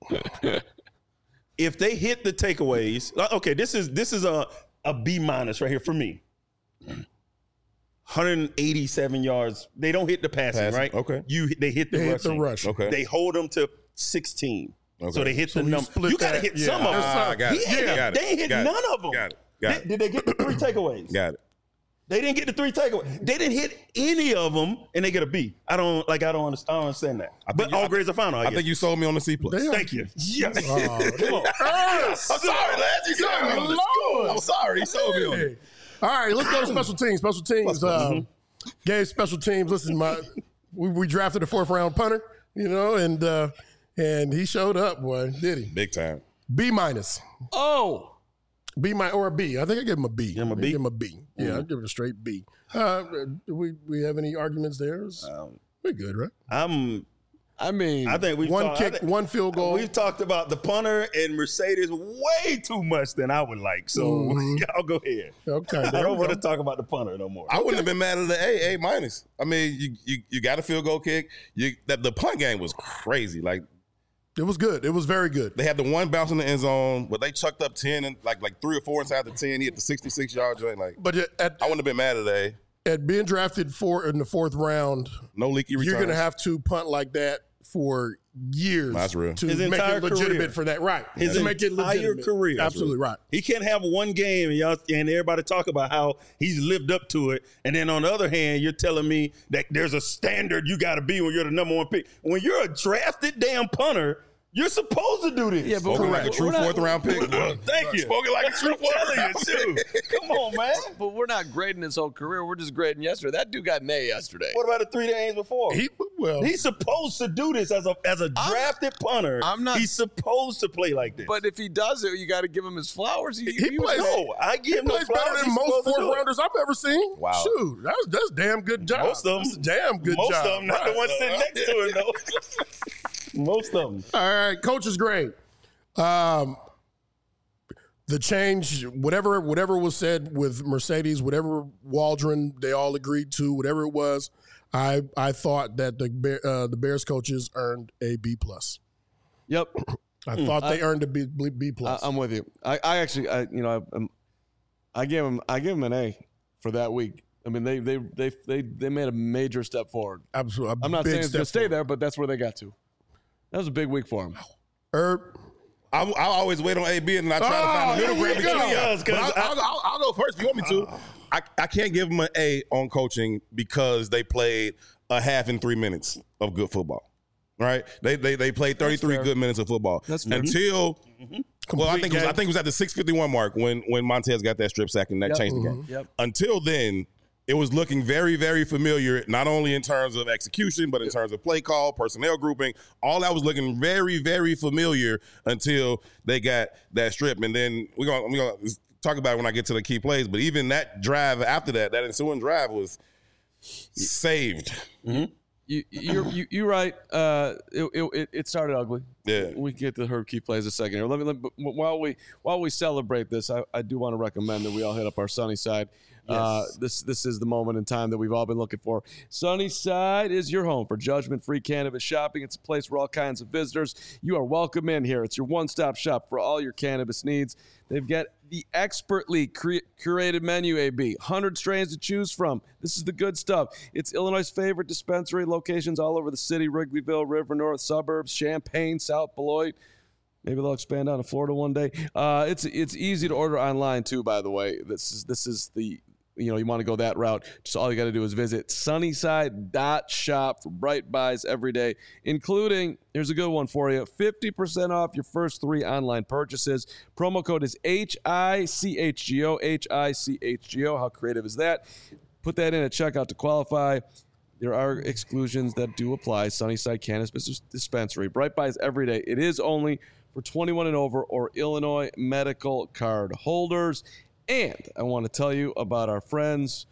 If they hit the takeaways, okay, this is this is a, a B minus right here for me. one hundred eighty-seven yards. They don't hit the passing, passing. right? Okay. You they hit the they rushing. hit the rush. Okay. They hold them to sixteen. Okay. So they hit so the number. You, you got to hit yeah. some of them. Ah, got it. Yeah. Got it. They hit got none it. of them. Got it. Got did, did they get the three takeaways? Got it. They didn't get the three takeaways. They didn't hit any of them, and they get a B. I don't like. I don't understand. I don't understand that. I but you, all I grades are final. I, I think you sold me on the C plus. Thank you. Yes. Oh, Come on. I'm sorry, Lance. You sold me on the school. I'm sorry. He sold me on it. All right, let's go to special teams. Special teams. Um, gave special teams. Listen, my we, we drafted a fourth round punter, you know, and uh, and he showed up, boy, did he? Big time. B minus. Oh. B minus or a B. I think I give him a B. Give him a B? Give him a B. Yeah, mm-hmm. I'd give it a straight B. Uh, do we we have any arguments there? Um, We're good, right? I'm. I mean, I think we one talk, kick, think, one field goal. We've talked about the punter and Mercedes way too much than I would like. So mm-hmm. y'all go ahead. Okay, I don't want to talk about the punter no more. I wouldn't have been mad at the A, A minus. I mean, you you, you got a field goal kick. You that the punt game was crazy. Like it was good. It was very good. They had the one bounce in the end zone, but they chucked up ten and like like three or four inside the ten. He hit the sixty-six yard joint. Like, but at, I wouldn't have been mad at A. At being drafted for in the fourth round, no leaky returns. You're going to have to punt like that for years. That's real. To His make entire it legitimate career. for that, right? His to make it entire legitimate. career. Absolutely right. He can't have one game and y'all and everybody talk about how he's lived up to it, and then on the other hand, you're telling me that there's a standard you got to be when you're the number one pick. When you're a drafted damn punter, you're supposed to do this. Yeah, but Spoken like a true fourth not, round pick. Thank you. Spoken like a true fourth round pick. Come on, man. But we're not grading his whole career. We're just grading yesterday. That dude got an A yesterday. What about the three games before? He well, he's supposed to do this as a as a drafted I'm, punter. I'm not. He's supposed to play like this. But if he does it, you got to give him his flowers. He, he, he plays. No, I give him plays flowers. better than most fourth rounders I've ever seen. Wow. Shoot, that's that's damn good job. Most of them, that's a damn good most job. Most of them, not right. the ones sitting next to him though. Most of them. All right, coach's grade. Um, the change, whatever whatever was said with Mercedes, whatever Waldron, they all agreed to, whatever it was, I I thought that the Bear, uh, the Bears coaches earned a B plus. Yep, I mm. thought they I, earned a B, B plus. I, I'm with you. I, I actually, I, you know, I, I gave them I gave them an A for that week. I mean, they they they they they made a major step forward. Absolutely, I'm not saying it's going to stay there, but that's where they got to. That was a big week for them. Herb. I, I always wait on A B and then I try oh, to find the middle ground between y'all. But I'll, I'll, I'll, I'll go first if you want me to. Uh, I, I can't give them an A on coaching because they played a half in three minutes of good football. Right? They they they played thirty-three good minutes of football. That's fair. Until mm-hmm. well, I think it was, I think it was at the six fifty-one mark when when Montez got that strip sack and that yep. changed the game. Yep. Until then, it was looking very, very familiar, not only in terms of execution, but in terms of play call, personnel grouping. All that was looking very, very familiar until they got that strip. And then we're going we're gonna talk about it when I get to the key plays. But even that drive after that, that ensuing drive was saved. Mm-hmm. You, you're you, you're right. Uh, it, it it started ugly. Yeah, we can get to Herb Key plays a second here. Let me, let me while we while we celebrate this, I, I do want to recommend that we all hit up our Sunnyside. Yes. Uh, this this is the moment in time that we've all been looking for. Sunnyside is your home for judgment-free cannabis shopping. It's a place where all kinds of visitors. You are welcome in here. It's your one-stop shop for all your cannabis needs. They've got the expertly cre- curated menu, A B. one hundred strains to choose from. This is the good stuff. It's Illinois' favorite dispensary locations all over the city: Wrigleyville, River North, suburbs, Champaign, South Beloit. Maybe they'll expand out to Florida one day. Uh, it's it's easy to order online too, by the way. This is this is the you know you want to go that route. Just all you got to do is visit sunnyside dot shop for bright buys every day, including, here's a good one for you, fifty percent off your first three online purchases. Promo code is H I C H G O, H I C H G O. How creative is that? Put that in at checkout to qualify. There are exclusions that do apply. Sunnyside Cannabis Dispensary. Bright buys every day. It is only for twenty-one and over or Illinois medical card holders. And I want to tell you about our friends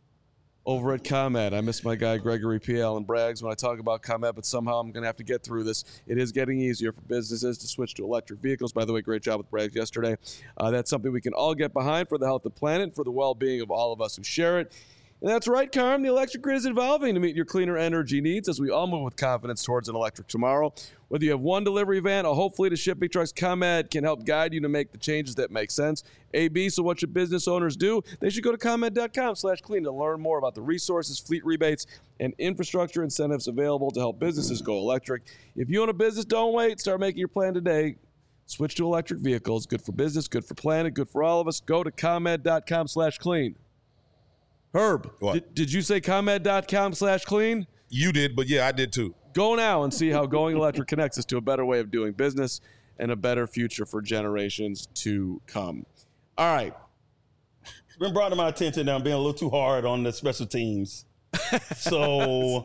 over at ComEd. I miss my guy Gregory P. Allen Braggs when I talk about ComEd, but somehow I'm going to have to get through this. It is getting easier for businesses to switch to electric vehicles. By the way, great job with Braggs yesterday. Uh, that's something we can all get behind for the health of the planet, for the well-being of all of us who share it. And that's right, Carm. The electric grid is evolving to meet your cleaner energy needs as we all move with confidence towards an electric tomorrow. Whether you have one delivery van or whole fleet of shipping trucks, ComEd can help guide you to make the changes that make sense. A B, so what should business owners do? They should go to ComEd.com slash clean to learn more about the resources, fleet rebates, and infrastructure incentives available to help businesses go electric. If you own a business, don't wait. Start making your plan today. Switch to electric vehicles. Good for business, good for planet, good for all of us. Go to ComEd.com slash clean. Herb, did, did you say ComEd.com slash clean? You did, but yeah, I did too. Go now and see how going electric connects us to a better way of doing business and a better future for generations to come. All right. It's been brought to my attention that I'm being a little too hard on the special teams. So,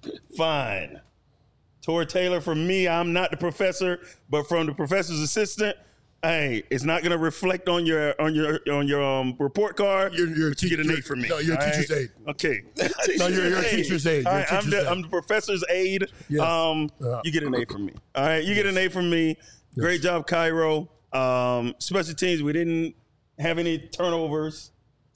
fine. Tori Taylor, for me, I'm not the professor, but from the professor's assistant, hey, it's not going to reflect on your on your on your um, report card. You're, you're you get an A from me. No, you're a teacher's right? aid. Okay. No, you're, you're a teacher's aid. You're All right, teacher's I'm, the, aid. I'm the professor's aide. Yes. Um, uh, you get an A from me. All right, you yes. get an A from me. Great yes. job, Cairo. Um, special teams, we didn't have any turnovers,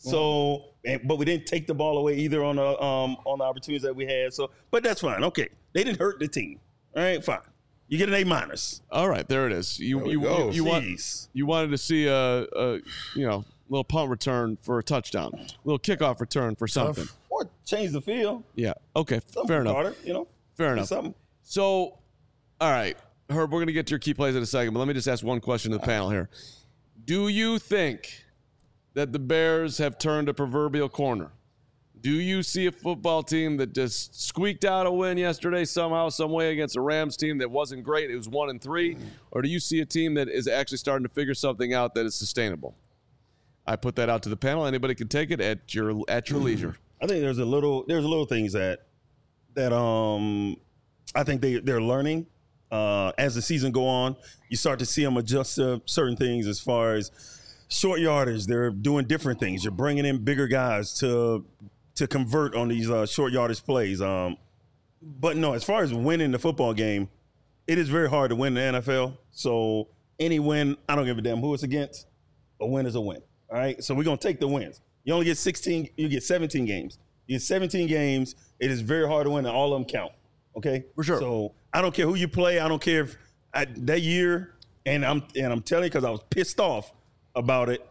so and, but we didn't take the ball away either on the um, on the opportunities that we had. So, but that's fine. Okay, they didn't hurt the team. All right, fine. You get an A minus. All right, there it is. You you you, you, want, you wanted to see a, a you know little punt return for a touchdown, a little kickoff return for something, or change the field. Yeah. Okay. Something fair enough. Harder, you know. Fair enough. Something. So, all right, Herb, we're gonna get to your key plays in a second, but let me just ask one question to the panel here. Do you think that the Bears have turned a proverbial corner? Do you see a football team that just squeaked out a win yesterday somehow, some way against a Rams team that wasn't great? It was one and three. Or do you see a team that is actually starting to figure something out that is sustainable? I put that out to the panel. Anybody can take it at your at your leisure. I think there's a little there's a little things that that um I think they they're learning uh, as the season go on. You start to see them adjust to certain things as far as short yardage. They're doing different things. You're bringing in bigger guys to. to convert on these uh, short yardage plays. Um, but no, as far as winning the football game, it is very hard to win the N F L. So any win, I don't give a damn who it's against. A win is a win. All right. So we're going to take the wins. You only get sixteen, you get seventeen games. You get seventeen games. It is very hard to win, and all of them count. Okay. For sure. So I don't care who you play. I don't care if I, that year, and I'm and I'm telling you because I was pissed off about it.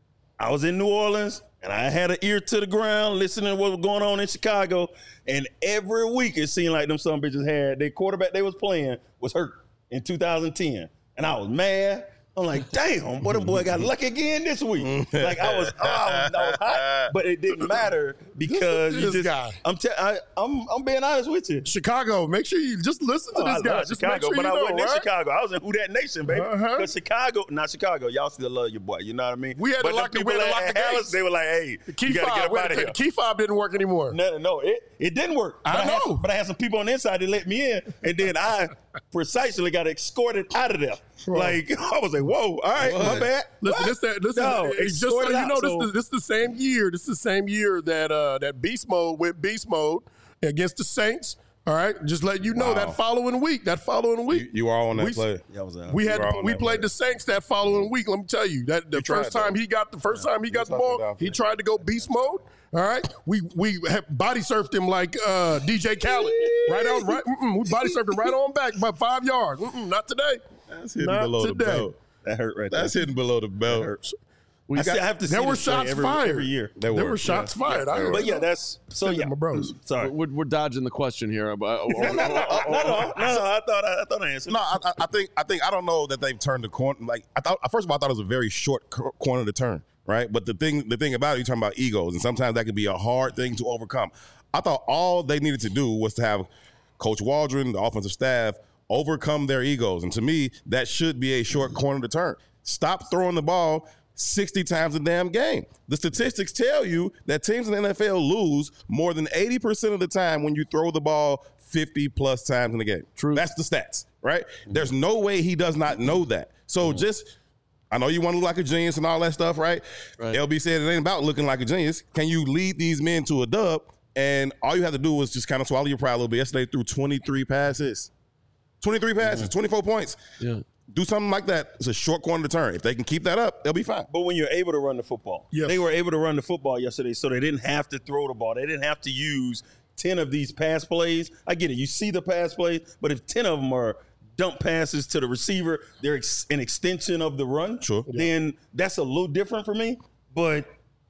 I was in New Orleans. And I had an ear to the ground listening to what was going on in Chicago. And every week it seemed like them some bitches had their quarterback they was playing was hurt in two thousand ten. And I was mad. I'm like, damn, boy, the boy got lucky again this week. Like I was, oh, I was, I was hot, but it didn't matter because this you just. guy. I'm, te- I, I'm, I'm being honest with you. Chicago, make sure you just listen to oh, this I guy. Love just Chicago, make sure but you I know, wasn't right? in Chicago. I was in Who That Nation, baby. Because Uh-huh. Chicago, not Chicago, y'all still love your boy. You know what I mean? We had to but lock the- people we had to at lock the Dallas, gates. They were like, hey, Key you got to fob, get up out of here. Key fob didn't work anymore. No, no, it, it didn't work. I but know. I had, but I had some people on the inside that let me in, and then I precisely got escorted out of there. Bro. Like, I was like, whoa, all right, what? My bad. Listen, this, that, this no, is, just so you out, know, so. this, is, this is the same year. This is the same year that uh, that Beast Mode went Beast Mode against the Saints. All right, just let you know wow. that following week, that following week, you, you are on that we, play. Yeah, I was out. We had to, we played play. the Saints that following week. Let me tell you that the he first time he got the first yeah. time he got the ball, he tried to go beast mode. All right, we we body surfed him like uh, D J Khaled, right on right. We body surfed him right on back by five yards. Mm-mm, not today. That's hitting not below today. the belt. That hurt right There. That's hitting below the belt. That hurts. We I, got, see, I have to. There see were shots every, fired every year. There, there were, were shots yeah. fired. Yeah. I but yeah, that's so. Yeah, my bros. Sorry, we're, we're dodging the question here. But, no, no, no, no, no, I thought I, I thought I answered. No, I, I think I think I don't know that they've turned the corner. Like I thought, first of all, I thought it was a very short corner to turn. Right, but the thing the thing about it, you're talking about egos, and sometimes that can be a hard thing to overcome. I thought all they needed to do was to have Coach Waldron, the offensive staff, overcome their egos, and to me, that should be a short corner to turn. Stop throwing the ball sixty times a damn game. The statistics tell you that teams in the N F L lose more than eighty percent of the time when you throw the ball fifty plus times in the game. True. That's the stats, right? Mm-hmm. There's no way he does not know that. So mm-hmm. just, I know you want to look like a genius and all that stuff, right? right? L B said it ain't about looking like a genius. Can you lead these men to a dub? And all you have to do is just kind of swallow your pride a little bit. Yesterday threw twenty-three passes. twenty-three passes, mm-hmm. twenty-four points. Yeah. Do something like that. It's a short corner to turn. If they can keep that up, they'll be fine. But when you're able to run the football, yes. they were able to run the football yesterday, so they didn't have to throw the ball. They didn't have to use ten of these pass plays. I get it. You see the pass plays, but if ten of them are dump passes to the receiver, they're ex- an extension of the run, sure. then yeah. that's a little different for me. But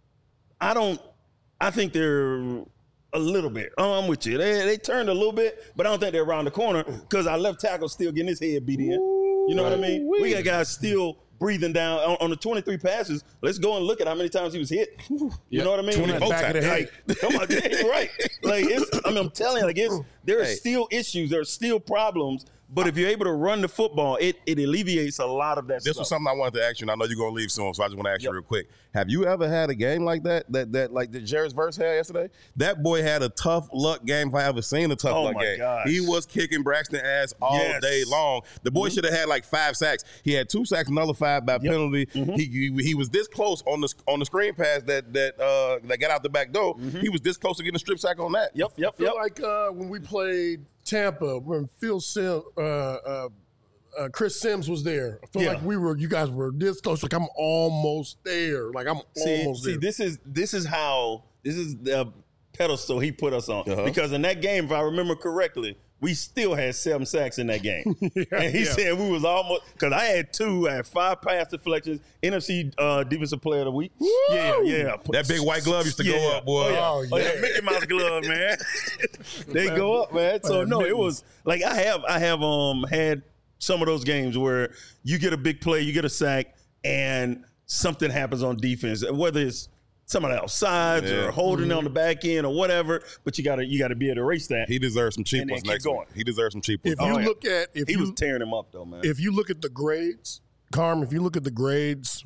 I don't – I think they're a little bit. Oh, I'm with you. They, they turned a little bit, but I don't think they're around the corner because our left tackle still getting his head beat in. You know right. what I mean? We got guys still breathing down on, on the twenty-three passes. Let's go and look at how many times he was hit. You yep. know what I mean? twenty back of the head. Like, come on, right? Like it's, I mean, I'm telling you, like it's there are hey. still issues, there are still problems. But if you're able to run the football, it, it alleviates a lot of that this stuff. This was something I wanted to ask you, and I know you're going to leave soon, so I just want to ask yep. you real quick. Have you ever had a game like that, that that like that Jarvis Verse had yesterday? That boy had a tough luck game if I ever seen a tough oh luck my game. Gosh. He was kicking Braxton ass all yes. day long. The boy mm-hmm. should have had like five sacks. He had two sacks nullified by yep. penalty. Mm-hmm. He, he he was this close on the on the screen pass that that uh, that got out the back door. Mm-hmm. He was this close to getting a strip sack on that. Yep, yep, I feel yep. like uh, when we played Tampa, when Phil Sim, uh, uh, uh, Chris Sims was there. I feel yeah. like we were, you guys were this close. Like I'm almost there. Like I'm see, almost see, there. this is this is how this is the pedestal he put us on. Uh-huh. Because in that game, if I remember correctly, we still had seven sacks in that game. yeah, and he yeah. said we was almost, because I had two, I had five pass deflections, N F C uh, Defensive Player of the Week. Woo! Yeah, yeah. That big white glove used to yeah. go up, boy. Oh, yeah. Oh, oh, yeah. yeah. Mickey Mouse glove, man. They go up, man. So, no, it was, like, I have I have um had some of those games where you get a big play, you get a sack, and something happens on defense, whether it's somebody outside yeah. or holding mm-hmm. on the back end or whatever, but you gotta you gotta be able to erase that. He deserves some cheap ones next week. He deserves some cheap ones. If you oh, look at if he you, was tearing him up though, man. If you look at the grades, Carm, if you look at the grades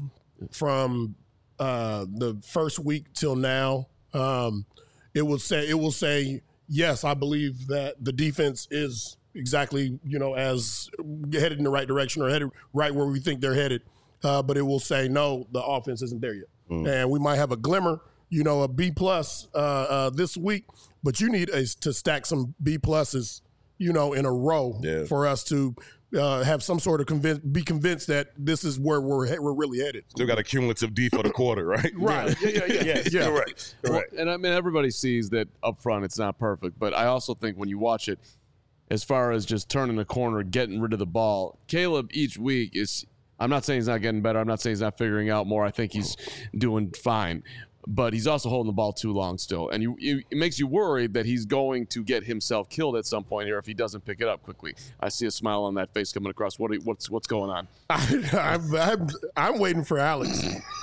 from uh, the first week till now, um, it will say it will say yes, I believe that the defense is exactly, you know, as headed in the right direction or headed right where we think they're headed. Uh, but it will say, no, the offense isn't there yet. Mm. And we might have a glimmer, you know, a B plus uh, uh, this week, but you need a, to stack some B pluses, you know, in a row yeah. for us to uh, have some sort of convince, be convinced that this is where we're we're really headed. Still got a cumulative D for the quarter, right? Right. Yeah, yeah, yeah. yeah. yeah. Correct. Correct. Well, and I mean, everybody sees that up front it's not perfect, but I also think when you watch it, as far as just turning the corner, getting rid of the ball, Caleb each week is – I'm not saying he's not getting better. I'm not saying he's not figuring out more. I think he's doing fine. But he's also holding the ball too long still. And you, you, it makes you worried that he's going to get himself killed at some point here if he doesn't pick it up quickly. I see a smile on that face coming across. What? What's what's going on? I, I'm, I'm, I'm waiting for Alex.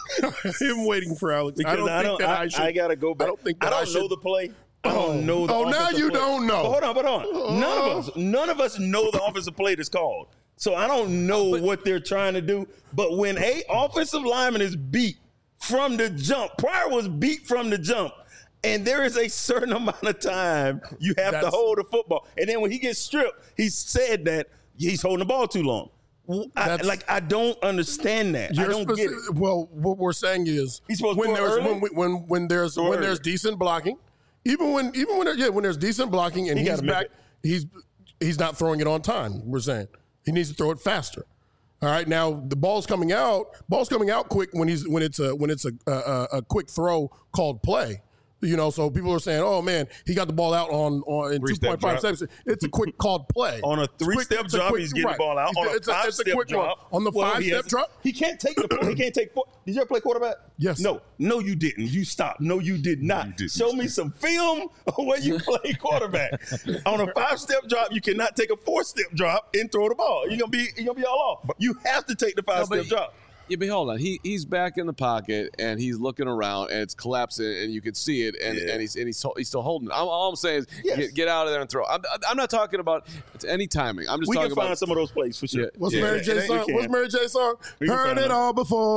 I'm waiting for Alex. Because I don't I think don't, that I, I should. I got to go back. I don't think that I don't I should, know the play. I don't know the Oh, now you play. don't know. But hold on, but hold on. None of us, none of us know the offensive play that's called. So I don't know but, what they're trying to do. But when a offensive lineman is beat from the jump, Pryor was beat from the jump, and there is a certain amount of time you have to hold the football. And then when he gets stripped, he said that he's holding the ball too long. I, like, I don't understand that. I don't get it. Well, what we're saying is he's supposed when to there's early? when, when when there's Go when early. there's decent blocking, even when even when there, yeah when there's decent blocking and he he's back. he's he's not throwing it on time. We're saying he needs to throw it faster. All right, now the ball's coming out. Ball's coming out quick when he's when it's a when it's a a, a quick throw called play. You know, so people are saying, "Oh man, he got the ball out on, on in two point five seconds." It's a quick called play on a three-step drop. Quick, he's getting right. the ball out He's, on it's a five-step drop. On the well, five-step drop, he can't take the. He can't take. Four. Did you ever play quarterback? Yes. No, no, you didn't. You stopped. No, you did not. You did. Show me some film where you play quarterback. On a five-step drop, you cannot take a four-step drop and throw the ball. You're gonna be you're gonna be all off. You have to take the five-step no, drop. Yeah, but hold on. He he's back in the pocket and he's looking around and it's collapsing and you can see it and, yeah. and he's and he's he's still holding it. I'm, all I'm saying is yes. get, get out of there and throw. I'm, I'm not talking about any timing. I'm just we talking can about find some of those plays for sure. Yeah. What's yeah. Mary J song? What's Mary J song? Heard it all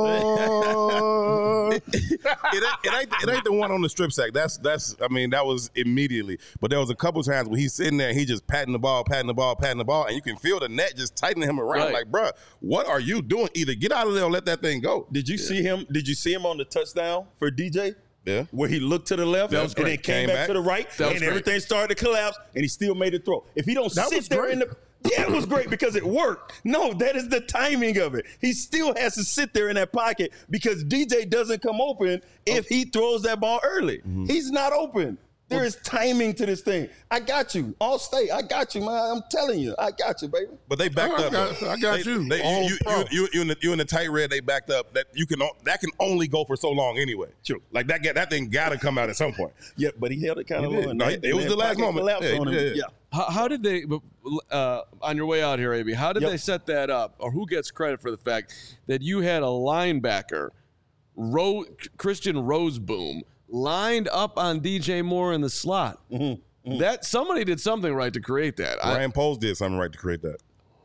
before. it, ain't, it ain't it ain't the one on the strip sack. That's that's I mean that was immediately. But there was a couple times when he's sitting there, and he just patting the ball, patting the ball, patting the ball, and you can feel the net just tightening him around. Right. Like, bruh, what are you doing? Either get out of there or let that thing go. Did you yeah. see him? Did you see him on the touchdown for D J? Yeah. Where he looked to the left and then came, came back, back to the right, and great. everything started to collapse, and he still made a throw. If he don't that sit there great. in the yeah, it was great because it worked. No, that is the timing of it. He still has to sit there in that pocket because D J doesn't come open if he throws that ball early. Mm-hmm. He's not open. There is timing to this thing. I got you. All state. I got you, man. I'm telling you. I got you, baby. But they backed I up. Got, I got they, you. They, you, you, you, you, you, in the, you in the tight red, they backed up. That you can that can only go for so long anyway. True. Like that that thing got to come out at some point. Yeah, but he held it kind of low. No, it was the last moment. Yeah, yeah, yeah. yeah. How, how did they, uh, on your way out here, A B, how did yep. they set that up? Or who gets credit for the fact that you had a linebacker, Ro- Christian Roseboom, lined up on D J Moore in the slot? Mm-hmm. Mm-hmm. That somebody did something right to create that. Ryan Poles did something right to create that.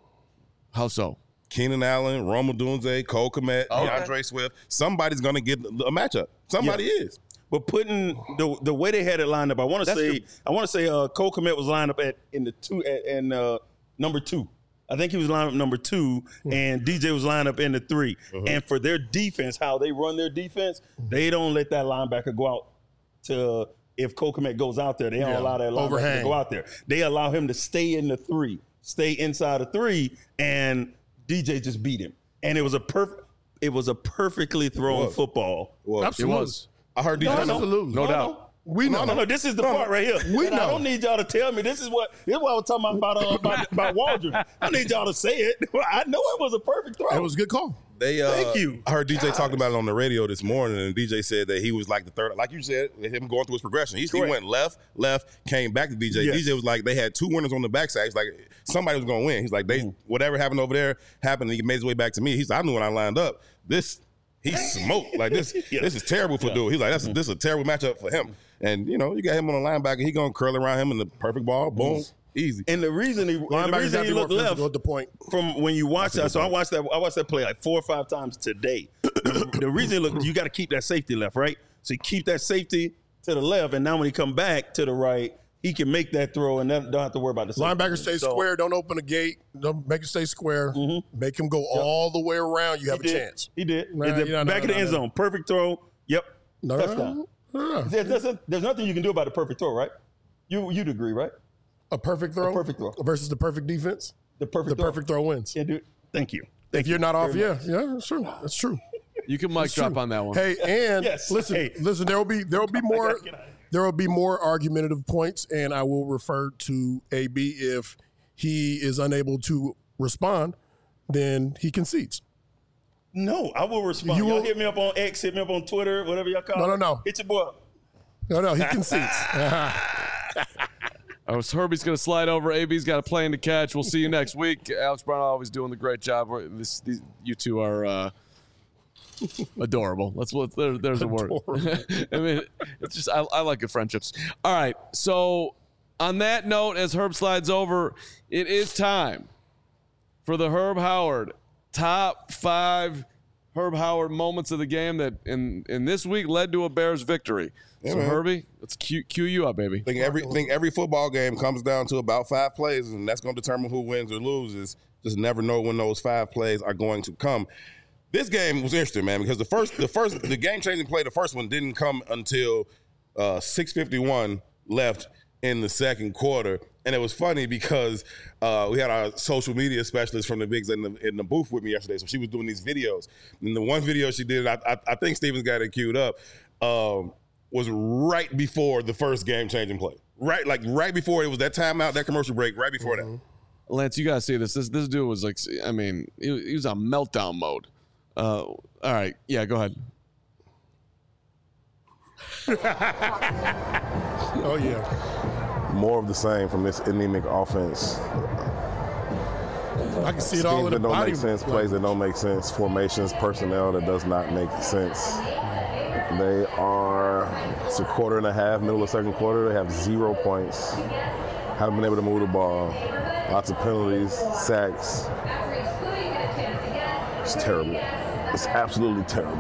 How so? Keenan Allen, Rome Odunze, Cole Kmet, okay. DeAndre Swift. Somebody's going to get a matchup. Somebody yeah. is. But putting the the way they had it lined up, I want to say the, I want to say uh, Cole Kmet was lined up at in the two at, and uh, number two. I think he was lined up number two, mm-hmm. and D J was lined up in the three. Mm-hmm. And for their defense, how they run their defense, mm-hmm. they don't let that linebacker go out to. If Cole Kmet goes out there, they don't yeah. allow that linebacker Overhang. to go out there. They allow him to stay in the three, stay inside the three, and D J just beat him. And it was a perfect. It was a perfectly thrown football. Well, absolutely. It was. I heard D J. No, no, absolutely, no, no doubt. No. We know. No, no, no. This is the no, part right here. We and know. I don't need y'all to tell me. This is what this is what I was talking about about, uh, about, about Waldron. I don't need y'all to say it. I know it was a perfect throw. It was a good call. They, uh, Thank you. I heard D J Gosh. talking about it on the radio this morning, and D J said that he was like the third, like you said, him going through his progression. He, he went left, left, came back to D J. Yes. D J was like, they had two winners on the backside. He's like, somebody was going to win. He's like, they mm. whatever happened over there happened, and he made his way back to me. He's like, I knew when I lined up. This, he smoked. Like, this yeah. This is terrible for yeah. dude. He's like, That's, mm. this is a terrible matchup for him. And, you know, you got him on the linebacker. He going to curl around him in the perfect ball. Boom. Mm. Easy. And the reason he, the reason he looked left at the point. from when you watch that, so I watched that I watched that play like four or five times today. the, the reason he looked, you got to keep that safety left, right? So you keep that safety to the left, and now when he come back to the right, he can make that throw and don't have to worry about the safety. Linebacker stay so, square, don't open the gate, don't make it stay square, mm-hmm. make him go yep. all the way around, you have he a did. chance. He did. Nah, the, yeah, back no, of the no, end no. zone, perfect throw, yep, no, touchdown. No, no. There's, there's, there's nothing you can do about a perfect throw, right? You, you'd agree, right? A perfect throw? A perfect throw. Versus the perfect defense? The perfect the throw. perfect throw wins. Yeah, dude. Thank you. Thank if you're you not off, yeah, much. yeah, that's true. That's true. You can mic that's drop true. on that one. Hey, and yes. listen, hey. listen, there will be there will be more there will be more argumentative points, and I will refer to A B if he is unable to respond, then he concedes. No, I will respond. You will, y'all hit me up on X, hit me up on Twitter, whatever y'all call no, it. No, no, no. Hit your boy. No, no, he concedes. I was Herbie's going to slide over. A B's got a plane to catch. We'll see you next week. Alex Brown always doing the great job. This, these, you two are uh, adorable. Let's there, there's a word. I mean, it's just I, I like good friendships. All right. So on that note, as Herb slides over, it is time for the Herb Howard top five Herb Howard moments of the game that in in this week led to a Bears victory. Yeah, so man. Herbie, let's cue, cue you up, baby. I think every think every football game comes down to about five plays, and that's going to determine who wins or loses. Just never know when those five plays are going to come. This game was interesting, man, because the first the first the game changing play, the first one didn't come until uh, six fifty-one left, in the second quarter. And it was funny because uh, we had our social media specialist from the Bigs in the, in the booth with me yesterday. So she was doing these videos. And the one video she did, I, I, I think Steven's got it queued up, um, was right before the first game-changing play. Right, like right before it was that timeout, that commercial break, right before mm-hmm. that. Lance, you got to see this. This this dude was like, I mean, he, he was on meltdown mode. Uh, all right. Yeah, go ahead. Oh, yeah. More of the same from this anemic offense. I can see it all in the that don't body. make sense, plays that don't make sense, formations, personnel that does not make sense. They are, it's a quarter and a half, middle of second quarter. They have zero points. Haven't been able to move the ball. Lots of penalties, sacks. It's terrible. It's absolutely terrible.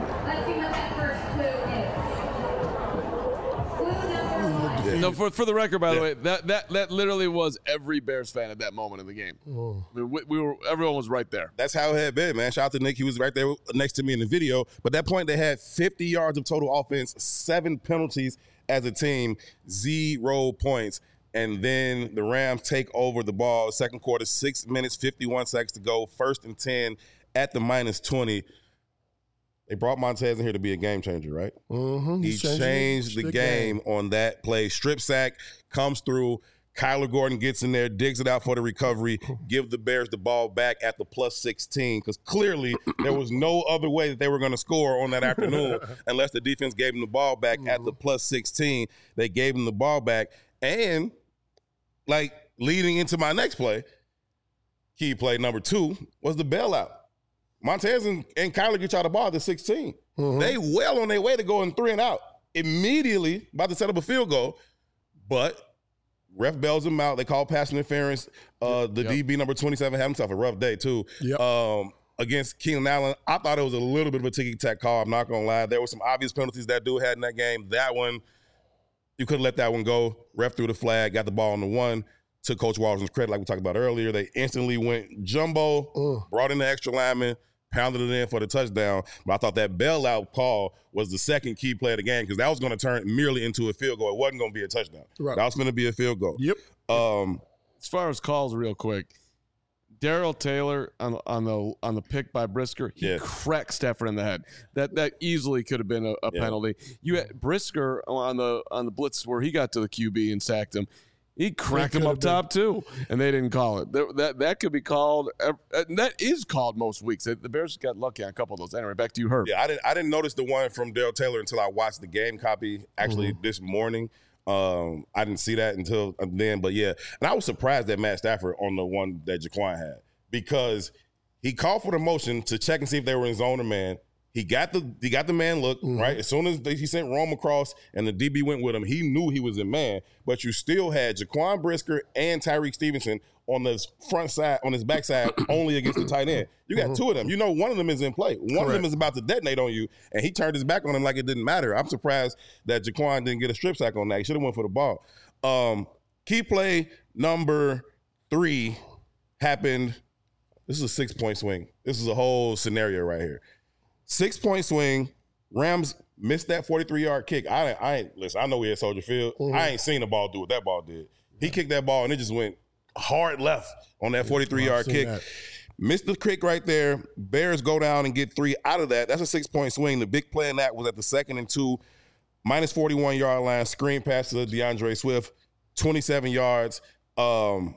No, for for the record, by the yeah. way, that, that that literally was every Bears fan at that moment in the game. Oh. I mean, we, we were everyone was right there. That's how it had been, man. Shout out to Nick; he was right there next to me in the video. But at that point, they had fifty yards of total offense, seven penalties as a team, zero points, and then the Rams take over the ball. Second quarter, six minutes, fifty-one seconds to go. First and ten at the minus twenty. They brought Montez in here to be a game changer, right? Mm-hmm. He changed the game, game on that play. Strip sack comes through. Kyler Gordon gets in there, digs it out for the recovery, give the Bears the ball back at the plus sixteen, because clearly there was no other way that they were going to score on that afternoon unless the defense gave them the ball back mm-hmm. at the plus sixteen. They gave them the ball back. And, like, leading into my next play, key play number two was the bailout. Montez and, and Kyler get y'all the ball at the sixteen. Mm-hmm. They well on their way to going three and out. Immediately about to set up a field goal, but ref bails them out. They call pass interference. Uh, the yep. D B number twenty-seven had himself a rough day too. Yep. Um, against Keenan Allen. I thought it was a little bit of a ticky-tack call. I'm not going to lie. There were some obvious penalties that dude had in that game. That one, you could have let that one go. Ref threw the flag, got the ball on the one. Took Coach Washington's credit like we talked about earlier. They instantly went jumbo, Ugh. brought in the extra lineman, pounded it in for the touchdown. But I thought that bailout call was the second key play of the game because that was going to turn merely into a field goal. It wasn't going to be a touchdown. Right. That was going to be a field goal. Yep. Um, as far as calls, real quick, Darrell Taylor on, on the on the pick by Brisker, he yeah. cracked Stafford in the head. That that easily could have been a, a yeah. penalty. You had Brisker on the on the blitz where he got to the Q B and sacked him. He cracked him up been. top too, and they didn't call it. That that, that could be called. Uh, that is called most weeks. The Bears got lucky on a couple of those. Anyway, back to you, Herb. Yeah, I didn't. I didn't notice the one from Darrell Taylor until I watched the game copy actually mm-hmm. this morning. Um, I didn't see that until then. But yeah, and I was surprised that Matt Stafford on the one that Jaquan had because he called for the motion to check and see if they were in zone or man. He got the he got the man look, mm-hmm. right? As soon as they, he sent Rome across and the D B went with him, he knew he was in man. But you still had Jaquan Brisker and Tyreek Stevenson on the front side, on his backside, only against the tight end. You got mm-hmm. two of them. You know one of them is in play. One Correct. of them is about to detonate on you, and he turned his back on him like it didn't matter. I'm surprised that Jaquan didn't get a strip sack on that. He should have went for the ball. Um, key play number three happened. This is a six-point swing. This is a whole scenario right here. Six-point swing. Rams missed that forty-three-yard kick. I, I ain't listen. I know we had Soldier Field. Mm-hmm. I ain't seen the ball do what that ball did. He kicked that ball and it just went hard left on that forty-three-yard kick. That. Missed the kick right there. Bears go down and get three out of that. That's a six-point swing. The big play in that was at the second and two, minus forty-one-yard line. Screen pass to DeAndre Swift, twenty-seven yards. Um,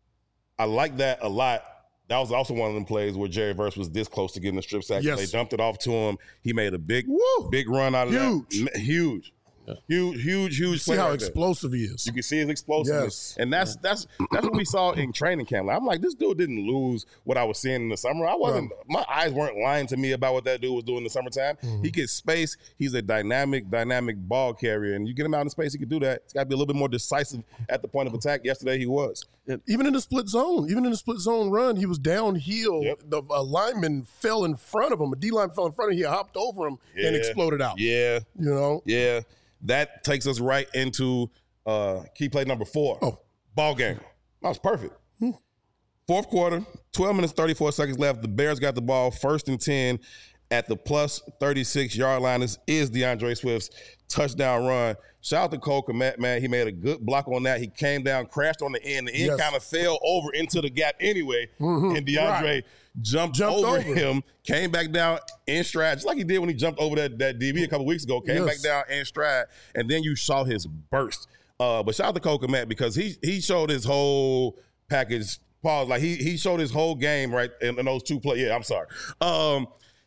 I like that a lot. That was also one of them plays where Jerry Verse was this close to getting the strip sack. Yes. They dumped it off to him. He made a big, Woo! big run out of huge. that. Huge. Yeah. Huge, huge, huge. You see how right explosive there. he is. You can see his explosiveness, yes. and that's that's that's what we saw in training camp. Like, I'm like, this dude didn't lose what I was seeing in the summer. I wasn't. Right. My eyes weren't lying to me about what that dude was doing in the summertime. Mm-hmm. He gets space. He's a dynamic, dynamic ball carrier, and you get him out in space, he can do that. He's got to be a little bit more decisive at the point of attack. Yesterday, he was. Even in the split zone, even in the split zone run, he was downhill. Yep. The a lineman fell in front of him. A D line fell in front of him. He hopped over him yeah. and exploded out. Yeah, you know. Yeah. That takes us right into uh, key play number four. Oh. Ball game. That was perfect. Hmm. Fourth quarter, twelve minutes, thirty-four seconds left. The Bears got the ball first and ten at the plus thirty-six yard line. This is DeAndre Swift's touchdown run. Shout out to Cole Kmet, man. He made a good block on that. He came down, crashed on the end. The end yes. kind of fell over into the gap anyway. Mm-hmm. And DeAndre right. jumped, jumped over, over him, came back down in stride, just like he did when he jumped over that, that D B a couple weeks ago. Came yes. back down in stride, and then you saw his burst. Uh, but shout out to Cole Kmet because he he showed his whole package. Pause. Like he he showed his whole game right in, in those two plays. Yeah, I'm sorry. Um,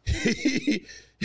he,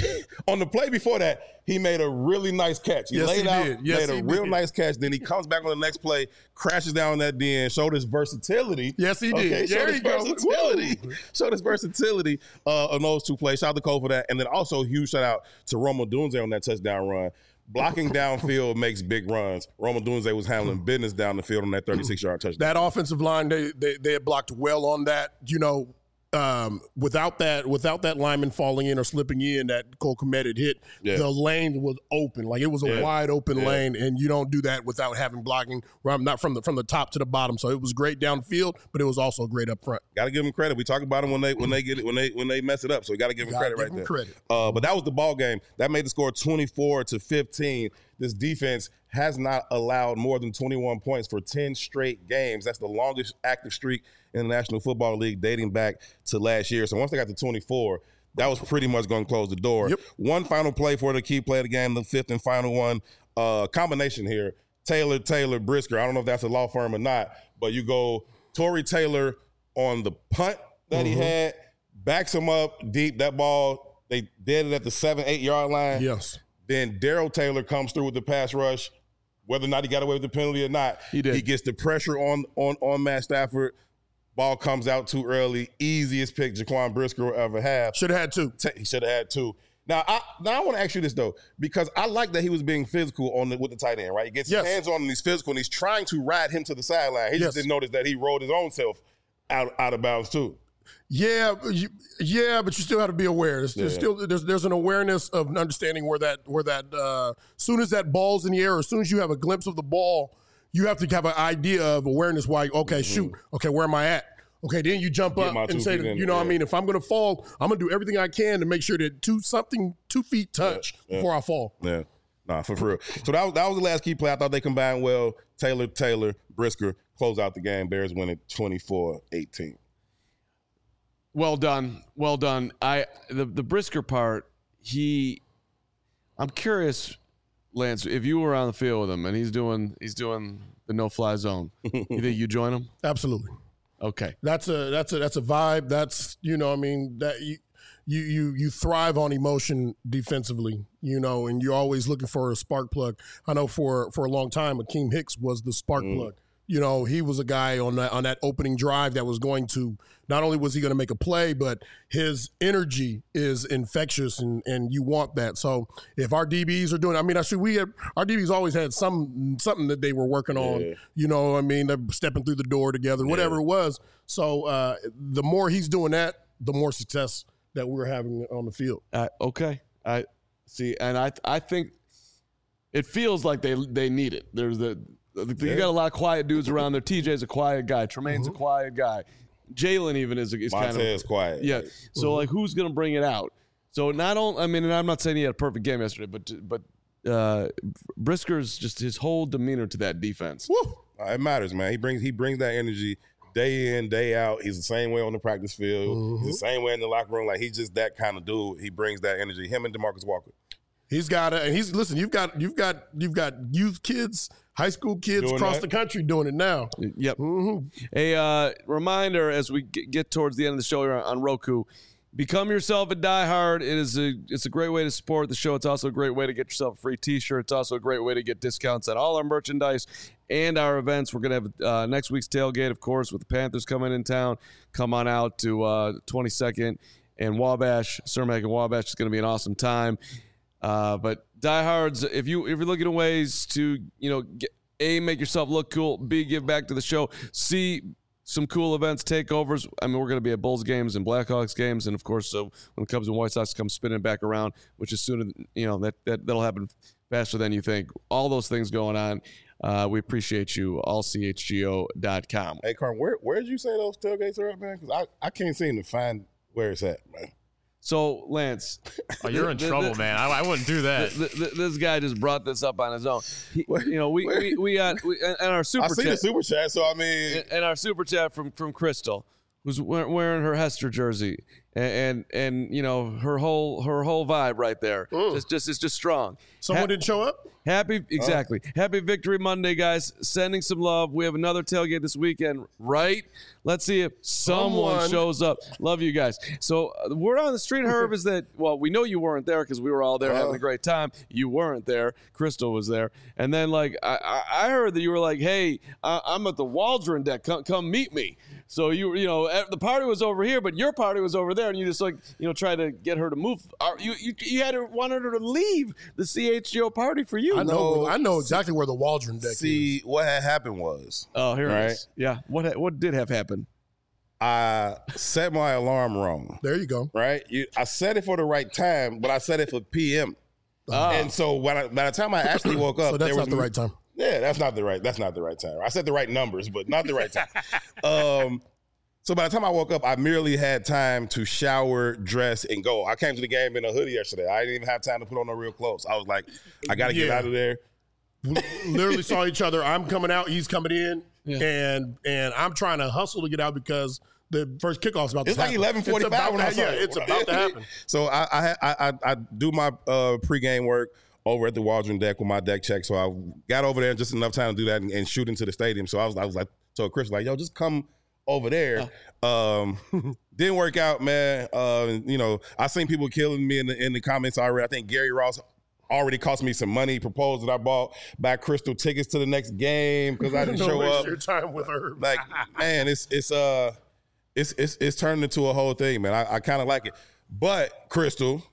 on the play before that, he made a really nice catch. He yes, laid he out, did. Yes, made a real did. nice catch. Then he comes back on the next play, crashes down that den, showed his versatility. Yes, he did. Okay, showed his versatility. Showed his versatility uh, on those two plays. Shout out to Cole for that. And then also huge shout out to Rome Odunze on that touchdown run. Blocking downfield makes big runs. Rome Odunze was handling business down the field on that thirty-six yard touchdown. That offensive line, they they, they had blocked well on that. You know, Um, without that, without that lineman falling in or slipping in, that Cole Kmet had hit, yeah. the lane was open. Like it was a yeah. wide open yeah. lane, and you don't do that without having blocking. Not from the from the top to the bottom. So it was great downfield, but it was also great up front. Got to give them credit. We talk about them when they when they get it when they when they mess it up. So you got to give them credit give right them there. Credit. Uh, but that was the ball game. That made the score twenty-four to fifteen. This defense has not allowed more than twenty-one points for ten straight games. That's the longest active streak in the National Football League dating back to last year. So once they got to twenty-four, that was pretty much going to close the door. Yep. One final play for the key play of the game, the fifth and final one. Uh, combination here, Taylor, Taylor, Brisker. I don't know if that's a law firm or not, but you go Tory Taylor on the punt that mm-hmm. he had, backs him up deep. That ball, they did it at the seven, eight-yard line. Yes. Then Darrell Taylor comes through with the pass rush. Whether or not he got away with the penalty or not, he did. He gets the pressure on on on Matt Stafford. Ball comes out too early. Easiest pick Jaquan Brisker will ever have. Should have had two. He should have had two. Now, I now I want to ask you this, though, because I like that he was being physical on the, with the tight end, right? He gets yes. his hands on him, he's physical, and he's trying to ride him to the sideline. He yes. just didn't notice that he rolled his own self out, out of bounds, too. Yeah, you, yeah, but you still have to be aware. There's, there's yeah. still there's there's an awareness of understanding where that where that uh, soon as that ball's in the air, as soon as you have a glimpse of the ball, you have to have an idea of awareness. Why? Okay, mm-hmm. shoot. Okay, where am I at? Okay, then you jump Get up and say, in, you know, yeah. what I mean, if I'm going to fall, I'm going to do everything I can to make sure that two something two feet touch yeah, yeah. before I fall. Yeah, nah, for real. So that was that was the last key play. I thought they combined well. Taylor, Taylor, Brisker close out the game. Bears win it twenty-four eighteen. Well done, well done. I the the Brisker part. He, I'm curious, Lance, if you were on the field with him and he's doing he's doing the no fly zone, you think you join him? Absolutely. Okay. That's a that's a that's a vibe. That's you know, I mean, that you you you you thrive on emotion defensively, you know, and you're always looking for a spark plug. I know for for a long time Akeem Hicks was the spark mm. plug. You know, he was a guy on that on that opening drive that was going to not only was he going to make a play, but his energy is infectious, and, and you want that. So if our D Bs are doing, I mean, actually, we have, our D Bs always had some something that they were working on. Yeah. You know, I mean, they're stepping through the door together, whatever yeah. it was. So uh, the more he's doing that, the more success that we're having on the field. Uh, okay, I see, and I I think it feels like they they need it. There's the You yeah. got a lot of quiet dudes around there. T J's a quiet guy. Tremaine's mm-hmm. a quiet guy. Jalen even is, is kind of Montez quiet. Yeah. So mm-hmm. like, who's going to bring it out? So not only, I mean, and I'm not saying he had a perfect game yesterday, but but uh, Brisker's just his whole demeanor to that defense. Woo. It matters, man. He brings he brings that energy day in, day out. He's the same way on the practice field. Mm-hmm. He's the same way in the locker room. Like he's just that kind of dude. He brings that energy. Him and DeMarcus Walker. He's got a, and he's listen. You've got you've got you've got youth kids, high school kids doing across that? the country doing it now. Yep. Mm-hmm. A uh, reminder as we get towards the end of the show here on Roku. Become yourself a diehard. It is a it's a great way to support the show. It's also a great way to get yourself a free T-shirt. It's also a great way to get discounts on all our merchandise and our events. We're gonna have uh, next week's tailgate, of course, with the Panthers coming in town. Come on out to uh, twenty-second and Wabash, Cermak and Wabash. It's gonna be an awesome time. Uh, but diehards, if you if you're looking at ways to you know get, A, make yourself look cool, B, give back to the show, C, some cool events, takeovers. I mean, we're going to be at Bulls games and Blackhawks games, and of course, so when the Cubs and White Sox come spinning back around, which is sooner, you know, that, that that'll happen faster than you think. All those things going on. Uh, we appreciate you. all c h g o dot com. Hey, Carm, where where did you say those tailgates are at, man? Because I, I can't seem to find where it's at, man. So, Lance. Oh, you're in the, trouble, the, man. I, I wouldn't do that. The, the, this guy just brought this up on his own. He, you know, we, we, we got, we, and our super I chat. see the super chat, so I mean. And our super chat from, from Crystal, who's wearing her Hester jersey. And, and, and you know, her whole her whole vibe right there. Mm. Just, just, it's just strong. Someone ha- didn't show up? Happy, exactly. Oh. Happy Victory Monday, guys. Sending some love. We have another tailgate this weekend, right? Let's see if someone, someone. shows up. Love you guys. So uh, the word on the street, Herb, is that, well, we know you weren't there because we were all there uh. having a great time. You weren't there. Crystal was there. And then, like, I, I heard that you were like, hey, I, I'm at the Waldron deck. Come, come meet me. So, you you know, the party was over here, but your party was over there. And you just, like, you know, try to get her to move. You you, you had to want her to leave the C H G O party for you. I know, I know exactly where the Waldron deck See, is. what had happened was. Oh, here right? it is. Yeah. What what did have happened? I set my alarm wrong. There you go. Right? You, I set it for the right time, but I set it for P M. Oh. And so when I, by the time I actually woke up, so that's there not was the right time. Yeah, that's not the right. That's not the right time. I said the right numbers, but not the right time. um, so by the time I woke up, I merely had time to shower, dress, and go. I came to the game in a hoodie yesterday. I didn't even have time to put on no real clothes. I was like, I got to yeah. get out of there. We literally saw each other. I'm coming out. He's coming in. Yeah. And and I'm trying to hustle to get out because the first kickoff's about to it's happen. It's like eleven forty-five when I saw Yeah, it. it's about to happen. So I I, I I do my uh, pregame work over at the Waldron deck with my deck check. So I got over there just enough time to do that and, and shoot into the stadium. So I was I was like, so Chris was like, yo, just come over there. Oh. Um, didn't work out, man. Uh, you know, I seen people killing me in the in the comments already. I think Gary Ross already cost me some money. Proposed that I bought back Crystal tickets to the next game because I didn't Don't show waste up. Your time with her, like man, it's it's uh, it's it's it's turned into a whole thing, man. I, I kind of like it, but Crystal,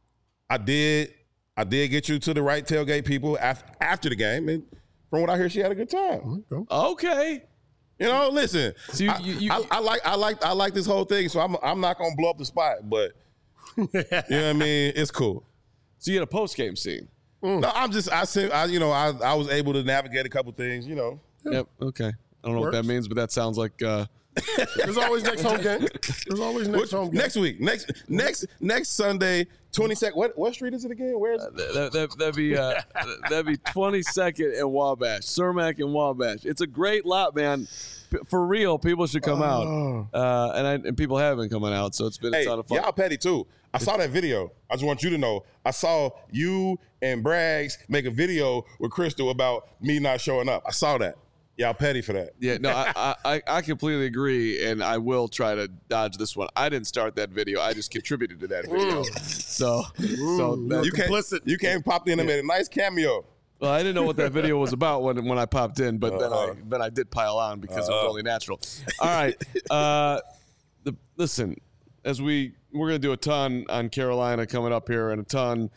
I did I did get you to the right tailgate people after after the game, and from what I hear, she had a good time. Okay. You know, listen. So you, you, you, I, I, I like, I like, I like this whole thing. So I'm, I'm not gonna blow up the spot, but you know what I mean. It's cool. So you had a post game scene. Mm. No, I'm just, I said, I, you know, I, I was able to navigate a couple things. You know. Yep. Okay. I don't know Works. what that means, but that sounds like. Uh, There's always next home game. There's always next Which, home game. Next week. Next, next, next Sunday. twenty-second. What what street is it again? Where is it? Uh, that, that, that'd be uh, that'd be twenty-second and Wabash, Cermak and Wabash. It's a great lot, man. P- for real, people should come oh. out, uh, and I, and people have been coming out, so it's been a hey, ton of fun. Y'all petty too. I saw that video. I just want you to know. I saw you and Braggs make a video with Crystal about me not showing up. I saw that. Y'all petty for that. Yeah, no, I, I I completely agree, and I will try to dodge this one. I didn't start that video; I just contributed to that video. so, Ooh, so that, you came, you came popped in and made a nice cameo. Well, I didn't know what that video was about when when I popped in, but uh, then I then I did pile on because uh, it was only natural. All right, uh, the, listen, as we we're gonna do a ton on Carolina coming up here, and a ton,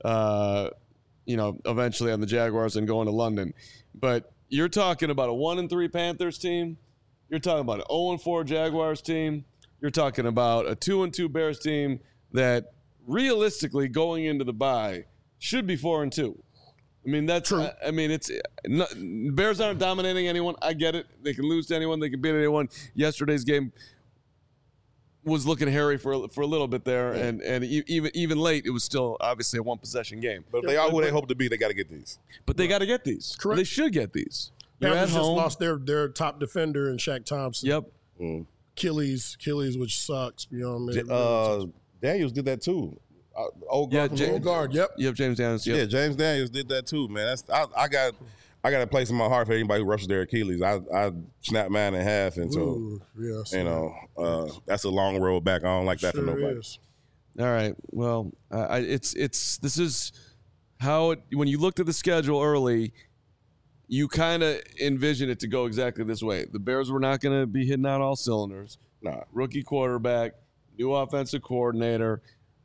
uh, you know, eventually on the Jaguars and going to London, but. You're talking about a one and three Panthers team. You're talking about an zero and four Jaguars team. You're talking about a two and two Bears team that realistically going into the bye should be four and two. I mean that's true. I, I mean it's not, Bears aren't dominating anyone. I get it. They can lose to anyone. They can beat anyone. Yesterday's game was looking hairy for for a little bit there, yeah. and and even even late, it was still obviously a one possession game. But if they are who they hope to be, they got to get these. But they got to get these. Correct. They should get these. You're Panthers at home. Just lost their their top defender in Shaq Thompson. Yep. Mm. Achilles, Achilles, which sucks. You know what I mean? Uh, Daniels did that too. Uh, old guard, yeah, James, old guard. Yep. Yep. James Daniels. Yep. Yeah, James Daniels did that too, man. That's I, I got. I got a place in my heart for anybody who rushes their Achilles. I, I snap mine in half, and so Ooh, yes, you know uh, that's a long road back. I don't like that sure for nobody. Is. All right, well, uh, I, it's it's this is how it, when you looked at the schedule early, you kind of envision it to go exactly this way. The Bears were not going to be hitting out all cylinders. Nah, rookie quarterback, new offensive coordinator,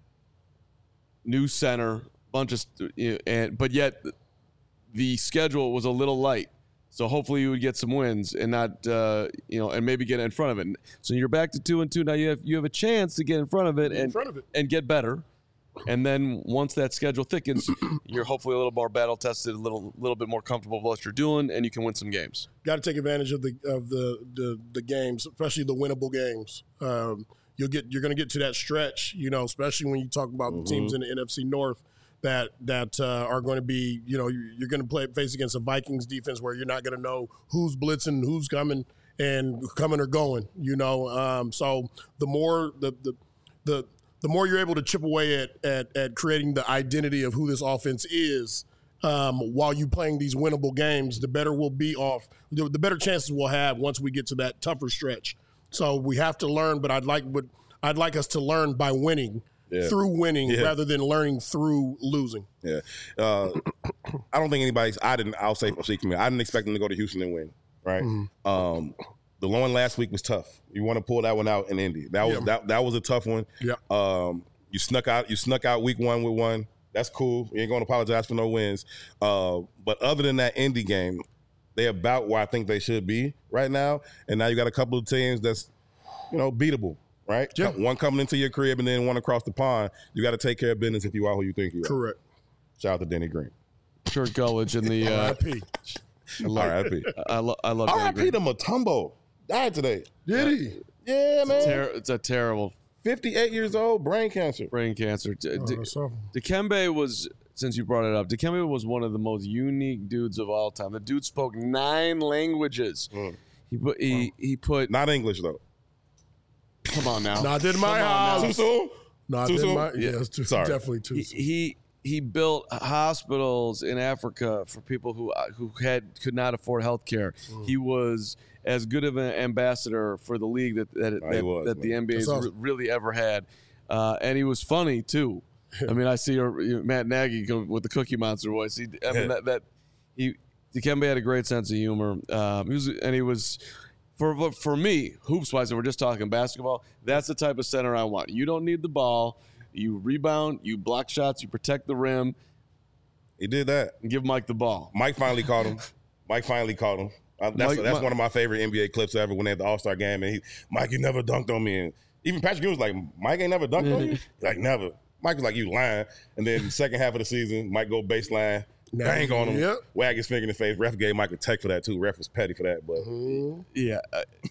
new center, bunch of you know, and but yet. The schedule was a little light, so hopefully you would get some wins and not, uh, you know, and maybe get in front of it. So you're back to two and two now. You have you have a chance to get in front of it and front of it. and get better. And then once that schedule thickens, you're hopefully a little more battle tested, a little little bit more comfortable with what you're doing, and you can win some games. Got to take advantage of the of the the, the games, especially the winnable games. Um, you'll get you're going to get to that stretch, you know, especially when you talk about mm-hmm. the teams in the N F C North that that uh, are going to be, you know, you're going to play face against a Vikings defense where you're not going to know who's blitzing, who's coming, and coming or going, you know. Um, so the more the the the the more you're able to chip away at at, at creating the identity of who this offense is. Um, while you playing these winnable games, the better we'll be off, the, the better chances we'll have once we get to that tougher stretch. So we have to learn, but I'd like, but I'd like us to learn by winning, yeah. through winning, yeah. rather than learning through losing. Yeah, uh, I don't think anybody's. I didn't. I'll say for me, I didn't expect them to go to Houston and win. Right. Mm-hmm. Um, the one last week was tough. You want to pull that one out in Indy. That was yeah. that. That was a tough one. Yeah. Um, you snuck out. You snuck out week one with one. That's cool. You ain't going to apologize for no wins. Uh, but other than that Indy game, they're about where I think they should be right now. And now you got a couple of teams that's, you know, beatable, right? Yeah. One coming into your crib and then one across the pond. You got to take care of business if you are who you think you are. Correct. Shout out to Denny Green. Kurt Gullidge in the uh, R I P R I P I, lo- I love R I P to Mutombo. Died today. Did he? Yeah, it's man. A ter- it's a terrible. fifty-eight years old, brain cancer. Brain cancer. D- oh, D- Dikembe was, since you brought it up, Dikembe was one of the most unique dudes of all time. The dude spoke nine languages. Mm. He put he, he put not English though. Come on now. Not in my house. Too soon? Not too in soon? my. Yeah, it's too, Sorry. definitely too he, soon. He he built hospitals in Africa for people who who had could not afford health care. Mm. He was as good of an ambassador for the league that that, oh, that, was, that the N B A has awesome. really ever had, uh, and he was funny too. I mean, I see your, your Matt Nagy go with the Cookie Monster voice. He, I mean, that, that he Dikembe had a great sense of humor. Um, he was, and he was for for me hoops wise. And we're just talking basketball. That's the type of center I want. You don't need the ball. You rebound. You block shots. You protect the rim. He did that. And give Mike the ball. Mike finally caught him. Mike finally caught him. Uh, that's Mike, that's Mike, one of my favorite N B A clips ever when they had the All-Star game. And he, Mike, you never dunked on me. And even Patrick Ewing was like, Mike ain't never dunked on you? Like, never. Mike was like, you lying. And then the second half of the season, Mike go baseline, bang on him, yep. wag his finger in the face. Ref gave Mike a tech for that, too. Ref was petty for that. But mm-hmm. Yeah.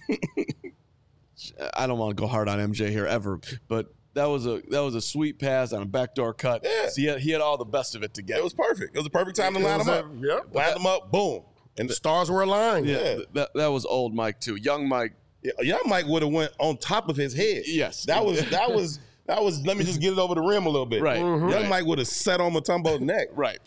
I don't want to go hard on M J here ever, but that was a that was a sweet pass on a backdoor cut. Yeah. So he had, he had all the best of it together. It was perfect. It was the perfect time to It line was him a- up. Yep. Line them up, boom. And the stars were aligned. Yeah, Yeah. That, that was old Mike too. Young Mike. Yeah, young Mike would have went on top of his head. Yes. That was that was that was let me just get it over the rim a little bit. Right. Young Right. Mike would have sat on Mutombo's neck. Right.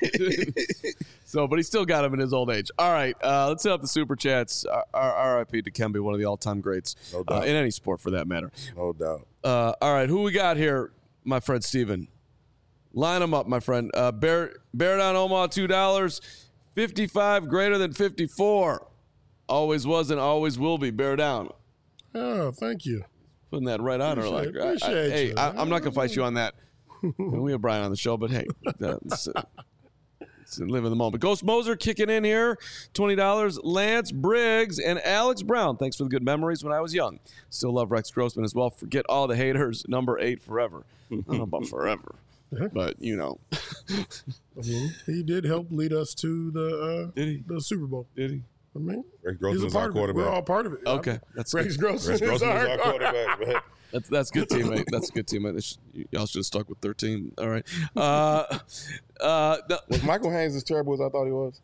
So, but he still got him in his old age. All right, uh, let's hit up the super chats. R I P Dikembe, one of the all-time greats No doubt. uh, in any sport for that matter. No doubt. Uh, all right, who we got here, my friend Steven? Line them up, my friend. Uh, Bear, Bear Down Omaha, two dollars. fifty-five greater than fifty-four. Always was and always will be. Bear Down. Oh, thank you. Putting that right on her. Like, Appreciate- I- I- appreciate hey, you. I, I'm not going to fight you on that. We have Brian on the show, but hey, that's, uh, it's live in the moment. Ghost Moser kicking in here, twenty dollars. Lance Briggs and Alex Brown. Thanks for the good memories when I was young. Still love Rex Grossman as well. Forget all the haters. Number eight forever. I don't know about forever, but you know. He did help lead us to the uh, Did he? the Super Bowl. Did he? I mean, Rex he's Grossman's a our part of it. quarterback. We're all part of it. Okay, that's Rex good. Grossman Rex is Grossman's our our quarterback. man. That's that's good teammate. That's a good teammate. They should- Y'all should have stuck with thirteen. All right. Uh, uh, no, Was Michael Haynes as terrible as I thought he was?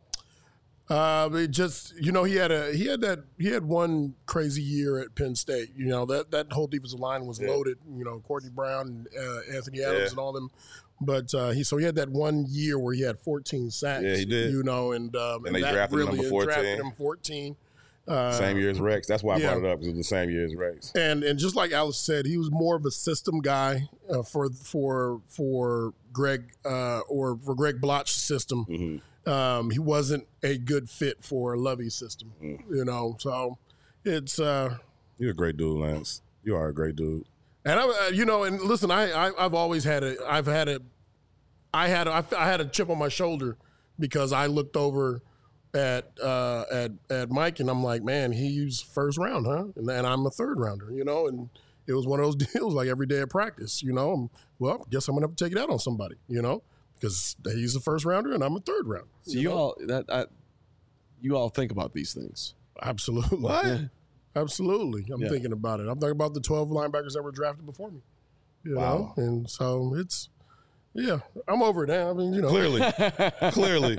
Uh, it just you know he had a he had that he had one crazy year at Penn State. You know that that whole defensive line was Yeah. loaded. You know Courtney Brown, uh, Anthony Adams, Yeah. and all them. But uh, he so he had that one year where he had fourteen sacks. Yeah, he did. You know, and um, And they that drafted him really number fourteen. Drafted him fourteen. Uh, Same year as Rex. That's why I yeah. brought it up, because it was the same year as Rex. And and just like Alice said, he was more of a system guy uh, for for for Greg uh, or for Greg Bloch's system. Mm-hmm. Um, he wasn't a good fit for Lovey's system, Mm. you know. So it's uh, You're a great dude, Lance. You are a great dude. and I, uh, you know, and listen, I, I I've always had a I've had a I had a, I had a chip on my shoulder because I looked over at uh, at at Mike and I'm like, man, he's first round, huh? And, and I'm a third rounder, you know, and it was one of those deals like every day at practice, you know. I'm, well, guess I'm gonna have to take it out on somebody, you know, because he's a first rounder and I'm a third rounder. so you know? all that I, you all think about these things. Absolutely. What? Yeah. Absolutely. I'm Yeah. thinking about it. I'm thinking about the twelve linebackers that were drafted before me. You Wow. know? And so it's, yeah, I'm over it now. I mean, you know. Clearly. Clearly.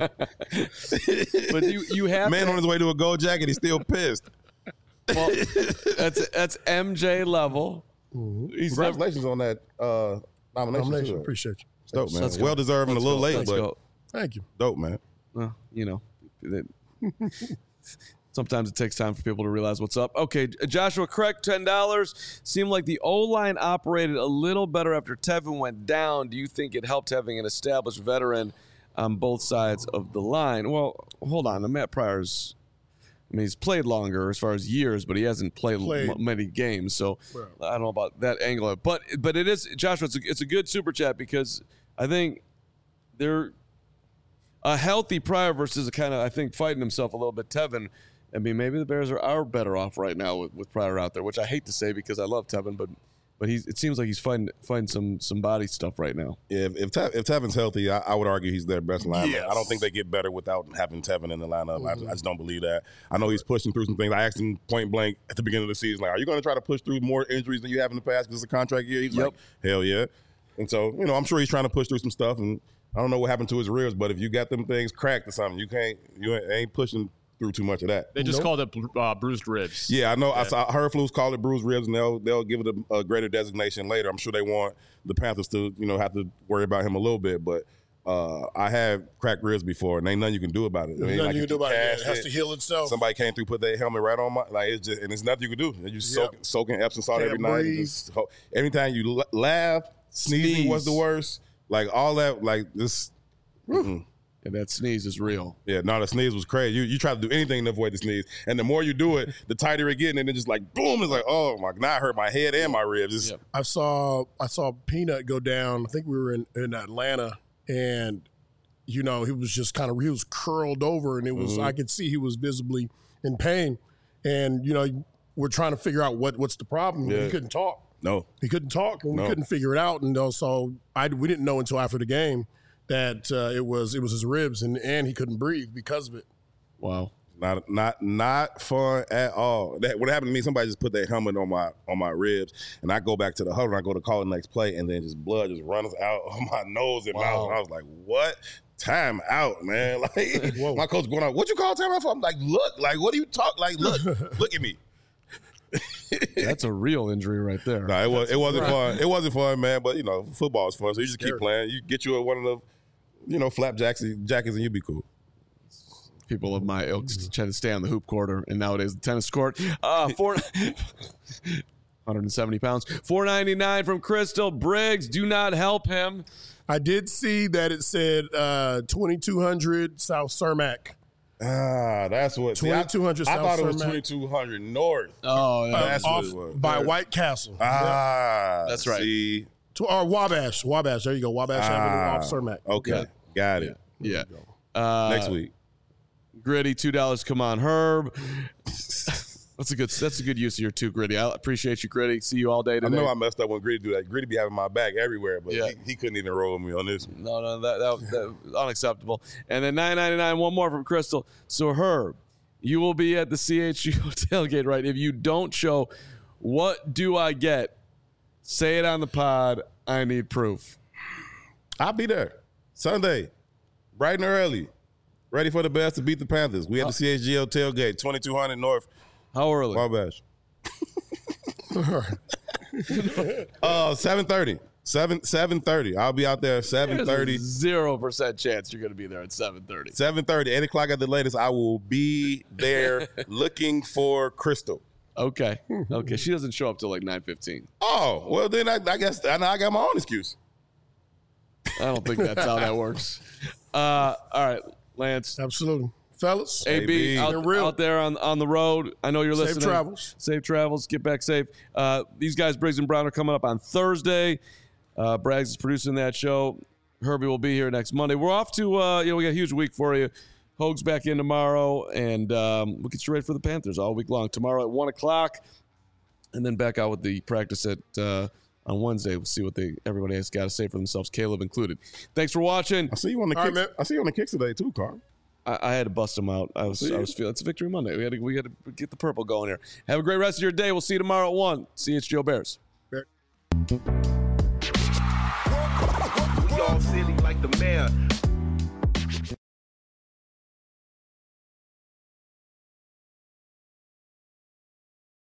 But you you have Man to, on his way to a gold jacket, he's still pissed. well, that's that's M J level. Mm-hmm. He's never, Congratulations on that uh, nomination. Nomination. too. Appreciate you. It's dope, man. Let's go. Well deserved and a Let's little go. late, Let's but go. Thank you. dope, man. Well, you know, that- sometimes it takes time for people to realize what's up. Okay, Joshua Craig, ten dollars. Seemed like the O-line operated a little better after Tevin went down. Do you think it helped having an established veteran on both sides of the line? Well, hold on. Matt Pryor's, I mean, he's played longer as far as years, but he hasn't played, Played. m- many games. So Right. I don't know about that angle. But but it is, Joshua, it's a, it's a good super chat because I think they're a healthy Pryor versus a kind of, I think, fighting himself a little bit. Tevin, I mean, maybe the Bears are, are better off right now with, with Pryor out there, which I hate to say because I love Tevin, but but he's it seems like he's fighting fighting some some body stuff right now. If if, Tev, if Tevin's healthy, I, I would argue he's their best lineman. Yes. I don't think they get better without having Tevin in the lineup. I, I just don't believe that. I know he's pushing through some things. I asked him point blank at the beginning of the season, like, "Are you going to try to push through more injuries than you have in the past because it's a contract year?" He's Yep. like, "Hell yeah!" And so, you know, I'm sure he's trying to push through some stuff. And I don't know what happened to his ribs, but if you got them things cracked or something, you can't, you ain't pushing through too much of that. They just Nope. called it uh, bruised ribs. Yeah, I know. I saw Herflus call it bruised ribs, and they'll they'll give it a, a greater designation later. I'm sure they want the Panthers to, you know, have to worry about him a little bit, but uh, I have cracked ribs before, and ain't nothing you can do about it. There's I mean, nothing like, you if can do about it. cast It has to heal itself. Somebody came through, put their helmet right on my, like, it's just, and it's nothing you can do. You just Yep. soaking, soaking Epsom salt Can't every night. and breathe. Just, ho- every time you l- laugh, sneezing Sneeze. was the worst. Like all that, like this. mm-mm. And that sneeze is real. Yeah, no, the sneeze was crazy. You you try to do anything to avoid the sneeze, and the more you do it, the tighter it gets, and then just like boom, it's like, oh my, now I hurt my head and my ribs. It's, Yep. I saw I saw Peanut go down. I think we were in, in Atlanta, and you know he was just kind of he was curled over, and it was Mhm. I could see he was visibly in pain, and you know we're trying to figure out what what's the problem. Yeah. He couldn't talk. No, He couldn't talk, and we No. couldn't figure it out. And so I we didn't know until after the game that uh, it was it was his ribs, and and he couldn't breathe because of it. Wow. not not not fun at all. That what happened to me? Somebody just put their helmet on my on my ribs, and I go back to the huddle. And I go to call the next play, and then just blood just runs out of my nose and Wow. mouth. And I was like, "What? Time out, man!" Like Whoa. my coach going out. What you call time out for? I'm like, "Look, like what do you talk? Like look, look at me." That's a real injury right there. No, it was it wasn't right. fun. It wasn't fun, man. But you know, football is fun, so you just keep Scary. playing. You get you one of the, you know, flapjacks jackets, and you be cool. People of my ilk try to stay on the hoop court or, and nowadays the tennis court. Uh, four, one hundred seventy pounds. four ninety-nine from Crystal Briggs. Do not help him. I did see that it said uh, twenty-two hundred South Cermak. Ah, that's what. see, I- twenty-two hundred I South thought it was Cermak. twenty-two hundred North. Oh, Uh, That's what off it was. by Yeah. White Castle. Ah, That's right. See, To, or Wabash. Wabash. There you go. Wabash Ah, Avenue off Cermak. okay, Yeah. got it. yeah. Uh, Next week. Gritty, two dollars. Come on, Herb. That's a good. That's a good use of your two, Gritty. I appreciate you, Gritty. See you all day I today. know I messed up when Gritty do that. Gritty be having my back everywhere, but Yeah. he, he couldn't even roll me on this. No, no, that, that, that was unacceptable. And then nine ninety-nine, one more from Crystal. So, Herb, you will be at the C H U tailgate, right? If you don't show, what do I get? Say it on the pod. I need proof. I'll be there Sunday, bright and early, ready for the Bears to beat the Panthers. We at the C H G O tailgate, twenty-two hundred North, How early? Wabash. uh, seven thirty. Seven seven thirty. I'll be out there seven thirty. Zero percent chance you're going to be there at seven thirty. Seven thirty, eight o'clock at the latest. I will be there looking for Crystal. Okay. Okay. She doesn't show up till like nine fifteen. Oh well, then I, I guess I, I got my own excuse. I don't think that's how that works. Uh, all right, Lance. Absolutely. Fellas. A B, A B. out, Been real. out there on, on the road. I know you're Safe listening. travels. Safe travels. Get back safe. Uh, these guys, Briggs and Brown, are coming up on Thursday. Uh, Braggs is producing that show. Herbie will be here next Monday. We're off to, uh, you know, we got a huge week for you. Hoag's back in tomorrow, and um, we'll get you ready for the Panthers all week long. Tomorrow at one o'clock, and then back out with the practice at uh, on Wednesday. We'll see what they everybody has got to say for themselves, Caleb included. Thanks for watching. I see you on the All right, kicks. man. I see you on the kicks today too, Carl. I, I had to bust them out. I was I was feeling it's a Victory Monday. We had to we got to get the purple going here. Have a great rest of your day. We'll see you tomorrow at one. C H G O Bears. We all silly like the mayor.